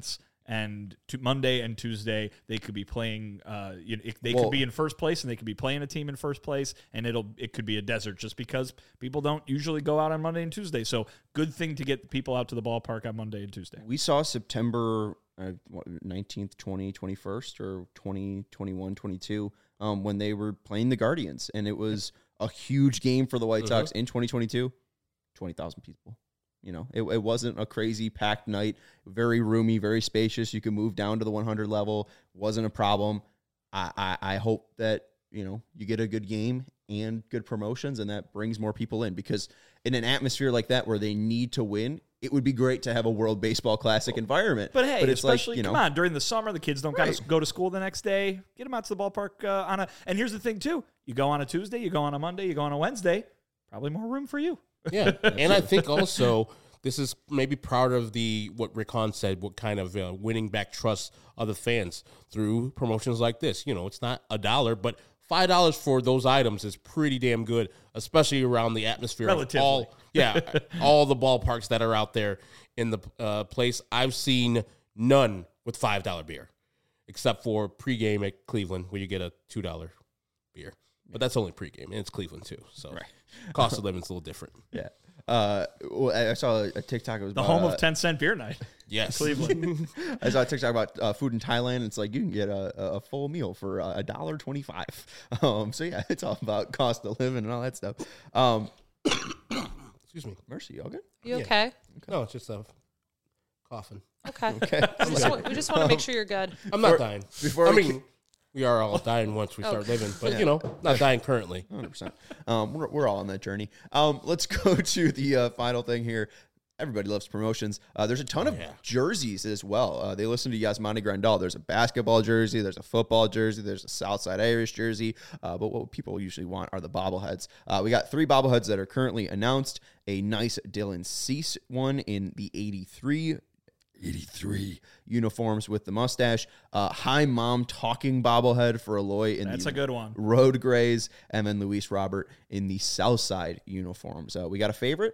and to Monday and Tuesday they could be playing. Uh, you know, it, they Well- could be in first place, and they could be playing a team in first place, and it'll it could be a desert just because people don't usually go out on Monday and Tuesday. So good thing to get people out to the ballpark on Monday and Tuesday. We saw September uh, what, nineteenth, twentieth, twenty-first, or twenty, twenty-one, twenty-two um, when they were playing the Guardians, and it was a huge game for the White Sox in twenty twenty-two. twenty thousand people. You know, it, it wasn't a crazy packed night. Very roomy, very spacious. You could move down to the one hundred level. Wasn't a problem. I, I, I hope that, you know, you get a good game and good promotions, and that brings more people in, because in an atmosphere like that where they need to win, it would be great to have a World Baseball Classic environment. But hey, it's especially like, you know, come on, during the summer, the kids don't Right. gotta go to school the next day. Get them out to the ballpark uh, on a. And here's the thing too: you go on a Tuesday, you go on a Monday, you go on a Wednesday. Probably more room for you. Yeah, and I think also this is maybe part of the what Rick Hahn said, what kind of uh, winning back trust of the fans through promotions like this. You know, it's not a dollar, but five dollars for those items is pretty damn good, especially around the atmosphere Relatively. of all yeah all the ballparks that are out there in the uh, place. I've seen none with five dollar beer, except for pregame at Cleveland, where you get a two dollar beer. But that's only pregame, and it's Cleveland too, so Right. cost of living is a little different. yeah. Uh, well, I I saw a TikTok. It was The about, home uh, of ten cent beer night. Yes, Cleveland. I saw a TikTok about uh, food in Thailand. It's like you can get a, a full meal for a dollar twenty-five. Um, so yeah, it's all about cost of living and all that stuff. Um, Excuse me. Mercy, you all good? You Yeah. okay? No, it's just a coughing. Okay. Okay. We just, want, we just want to make sure you're good. I'm not For- dying. before I we mean, we are all dying once we start Okay. living, but you know, not dying currently. one hundred percent. Um, we're, we're all on that journey. Um, let's go to the uh, final thing here. Everybody loves promotions. Uh, there's a ton of yeah. jerseys as well. Uh, they listen to Yasmani Grandal. There's a basketball jersey. There's a football jersey. There's a Southside Irish jersey. Uh, but what people usually want are the bobbleheads. Uh, we got three bobbleheads that are currently announced. A nice Dylan Cease one in the eighty-three eighty-three uniforms with the mustache. Uh, Hi Mom talking bobblehead for Eloy in That's the a good one. Road Grays, and then Luis Robert in the Southside uniforms. Uh, we got a favorite?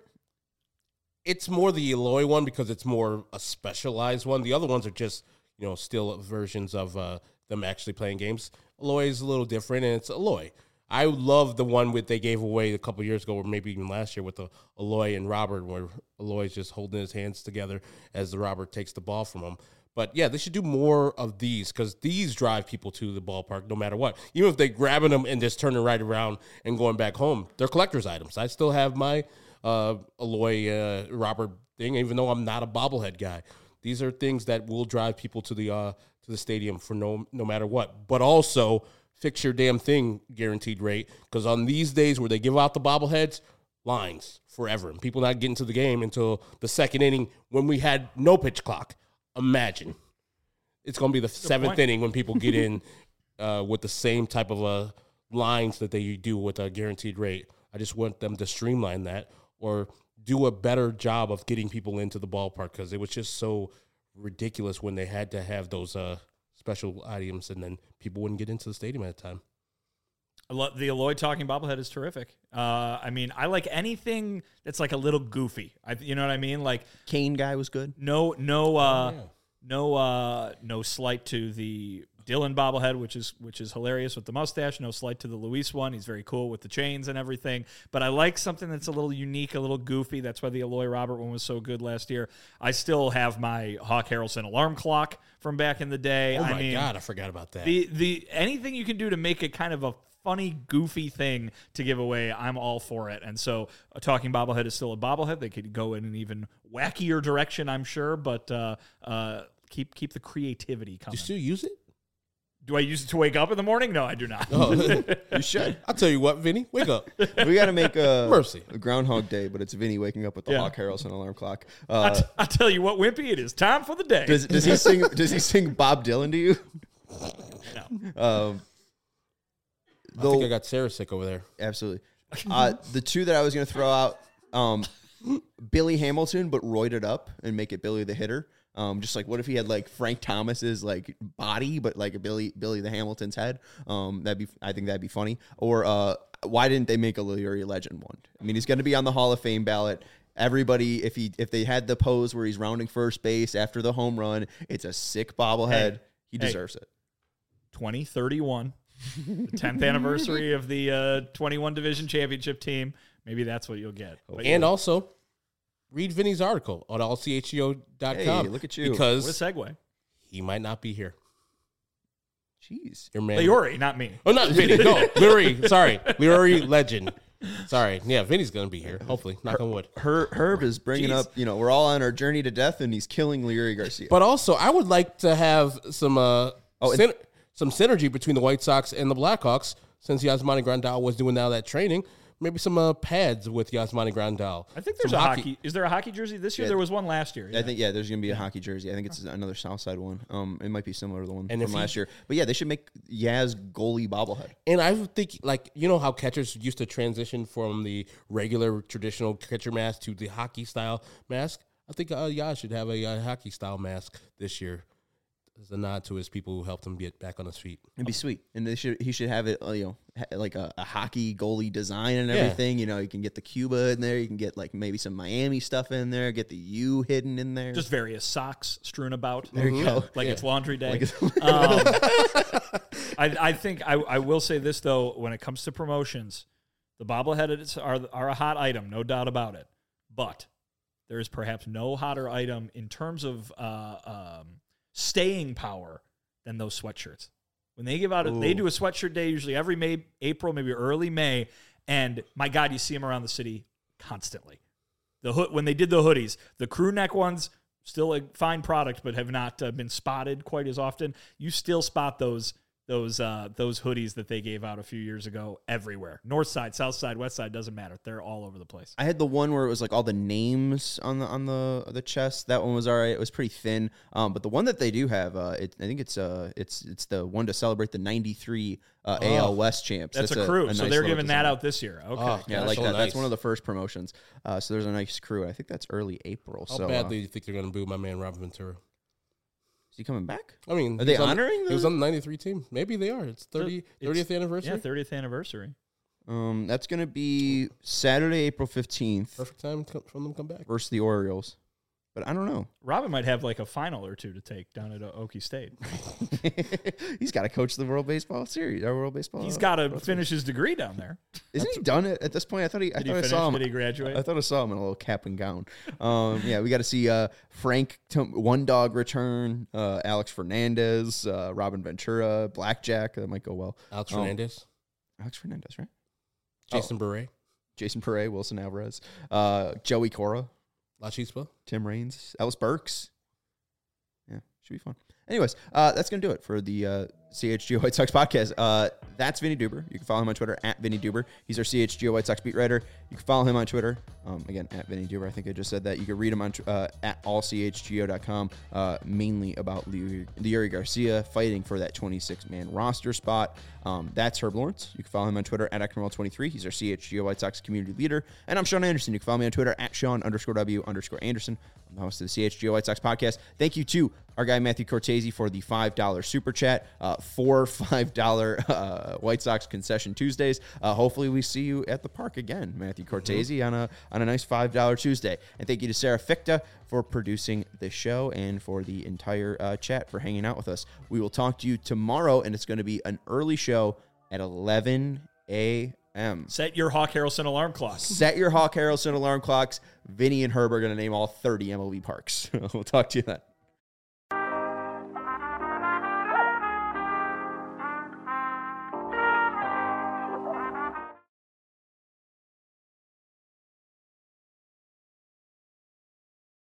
It's more the Eloy one because it's more a specialized one. The other ones are just, you know, still versions of uh, them actually playing games. Eloy is a little different, and it's Eloy. I love the one with they gave away a couple years ago, or maybe even last year, with the Eloy and Robert, where Eloy's just holding his hands together as the Robert takes the ball from him. But yeah, they should do more of these, because these drive people to the ballpark no matter what. Even if they're grabbing them and just turning right around and going back home, they're collector's items. I still have my uh, Eloy uh, Robert thing, even though I'm not a bobblehead guy. These are things that will drive people to the uh, to the stadium for no no matter what. But also, fix your damn thing guaranteed rate, because on these days where they give out the bobbleheads, lines forever, and people not getting to the game until the second inning when we had no pitch clock. Imagine. It's going to be the seventh point. inning when people get in uh, with the same type of uh, lines that they do with a guaranteed rate. I just want them to streamline that or do a better job of getting people into the ballpark, because it was just so ridiculous when they had to have those uh, special items and then people wouldn't get into the stadium at the time. I love- The Eloy talking bobblehead is terrific. Uh, I mean, I like anything that's like a little goofy. I, you know what I mean? Like Kane guy was good. no, no, uh, yeah. no, uh, no slight to the Dylan bobblehead, which is which is hilarious with the mustache. No slight to the Luis one. He's very cool with the chains and everything. But I like something that's a little unique, a little goofy. That's why the Eloy Robert one was so good last year. I still have my Hawk Harrelson alarm clock from back in the day. Oh I my mean, God, I forgot about that. The the anything you can do to make it kind of a funny, goofy thing to give away, I'm all for it. And so a talking bobblehead is still a bobblehead. They could go in an even wackier direction, I'm sure, but uh, uh, keep keep the creativity Do coming. you still use it? Do I use it to wake up in the morning? No, I do not. Oh. You should. I'll tell you what, Vinny, wake up. We got to make a, Mercy. a Groundhog Day, but it's Vinny waking up with the Yeah. Hawk Harrelson alarm clock. I Uh, t- I tell you what, Wimpy, it is time for the day. does, does he sing? Does he sing Bob Dylan to you? No. Um, I though- think I got Sarah sick over there. Absolutely. Uh, the two that I was going to throw out, um, Billy Hamilton, but roided up and make it Billy the Hitter. Um, just like what if he had like Frank Thomas's like body, but like a Billy Billy the Hamilton's head? Um, that'd be I think that'd be funny. Or uh, why didn't they make a Leary Legend one? I mean, he's going to be on the Hall of Fame ballot. Everybody, if he if they had the pose where he's rounding first base after the home run, it's a sick bobblehead. Hey, he hey. deserves it. twenty thirty-one, the tenth anniversary of the uh, twenty-one division championship team. Maybe that's what you'll get. But And also, read Vinny's article on all c h g o dot com. Hey, look at you. Because what a segue. he might not be here. Jeez. Your man. Leori, not me. Oh, not Vinny. No, Leroy. Sorry. Leroy Legend. Sorry. Yeah, Vinny's going to be here. Hopefully. Knock on wood. Her, Herb is bringing Jeez. up, you know, we're all on our journey to death, and he's killing Leury Garcia. But also, I would like to have some uh, Oh, and- syn- some synergy between the White Sox and the Blackhawks since Yasmani Grandal was doing now that training. Maybe some uh, pads with Yasmani Grandal. I think there's Some a hockey. Is there a hockey jersey this year? Yeah. There was one last year. I think, yeah, there's going to be a hockey jersey. I think it's another Southside one. Um, It might be similar to the one And if from he- last year. But, yeah, they should make Yaz goalie bobblehead. And I would think, like, you know how catchers used to transition from the regular traditional catcher mask to the hockey style mask? I think uh, Yaz should have a, uh hockey style mask this year as a nod to his people who helped him get back on his feet. It'd be sweet, and they should he should have it, uh, you know, ha- like a, a hockey goalie design and Yeah. everything. You know, you can get the Cuba in there, you can get like maybe some Miami stuff in there, get the U hidden in there. Just various socks strewn about. there you go. Like Yeah. it's laundry day. Like it's- um, I, I think I, I will say this, though, when it comes to promotions, the bobbleheads are, are a hot item, no doubt about it. But there is perhaps no hotter item in terms of uh, um, staying power than those sweatshirts. When they give out, a, they Ooh. do a sweatshirt day usually every May, April, maybe early May, and my God, you see them around the city constantly. The hood when they did the hoodies, the crew neck ones, still a fine product, but have not uh, been spotted quite as often. You still spot those those uh, those hoodies that they gave out a few years ago everywhere. North side, south side, west side, doesn't matter. They're all over the place. I had the one where it was like all the names on the on the the chest. That one was all right. It was pretty thin. Um, but the one that they do have, uh, it, I think it's uh, it's it's the one to celebrate the ninety-three uh, A L West champs. That's, a crew, a so nice they're little giving that design. out this year. Okay, Oh, Yeah, I That's like so that. nice. That's one of the first promotions. Uh, so there's a nice crew. I think that's early April. How so badly uh, do you think they're going to boo my man Robin Ventura? is he coming back? I mean, Are he they was on- honoring He was the- on the ninety-three team. Maybe they are. It's thirty, It's- thirtieth anniversary. Yeah, thirtieth anniversary. Um, that's going to be Saturday, April fifteenth Perfect time to come, from them to come back. versus the Orioles. But I don't know. Robin might have like a final or two to take down at uh, Okie State. He's got to coach the World Baseball Series. Our World Baseball. He's got to finish his degree down there. Isn't he done it at this point? I thought he. I Did he thought I finish? saw him. Did he graduate? I thought I saw him in a little cap and gown. Um, yeah, we got to see uh, Frank Tom- One Dog return, uh, Alex Fernandez, uh, Robin Ventura, Blackjack. That might go well. Alex Oh. Fernandez, Alex Fernandez, right? Jason Beret, Jason Pere, Wilson Alvarez, uh, Joey Cora, La Chispa. Tim Raines, Ellis Burks. Yeah, should be fun. Anyways, uh, that's going to do it for the uh, C H G O White Sox podcast. Uh, that's Vinny Duber. You can follow him on Twitter at Vinny Duber. He's our C H G O White Sox beat writer. You can follow him on Twitter. Um, again, at Vinny Duber. I think I just said that. You can read him on uh, at all c h g o dot com, uh, mainly about Leury Garcia fighting for that twenty-six man roster spot. Um, that's Herb Lawrence. You can follow him on Twitter at Acton twenty-three. He's our C H G O White Sox community leader. And I'm Sean Anderson. You can follow me on Twitter at Sean underscore W underscore Anderson. I'm the host of the C H G O White Sox podcast. Thank you to our guy Matthew Cortese for the five dollar super chat. Uh, four five dollar uh, White Sox concession Tuesdays. Uh, hopefully we see you at the park again, Matthew Cortese, on a on a nice five dollar Tuesday. And thank you to Sarah Ficta for producing the show and for the entire uh, chat for hanging out with us. We will talk to you tomorrow, and it's going to be an early show at eleven a.m. Set your Hawk Harrelson alarm clock. Set your Hawk Harrelson alarm clocks. Vinny and Herb are going to name all thirty M L B parks. We'll talk to you then.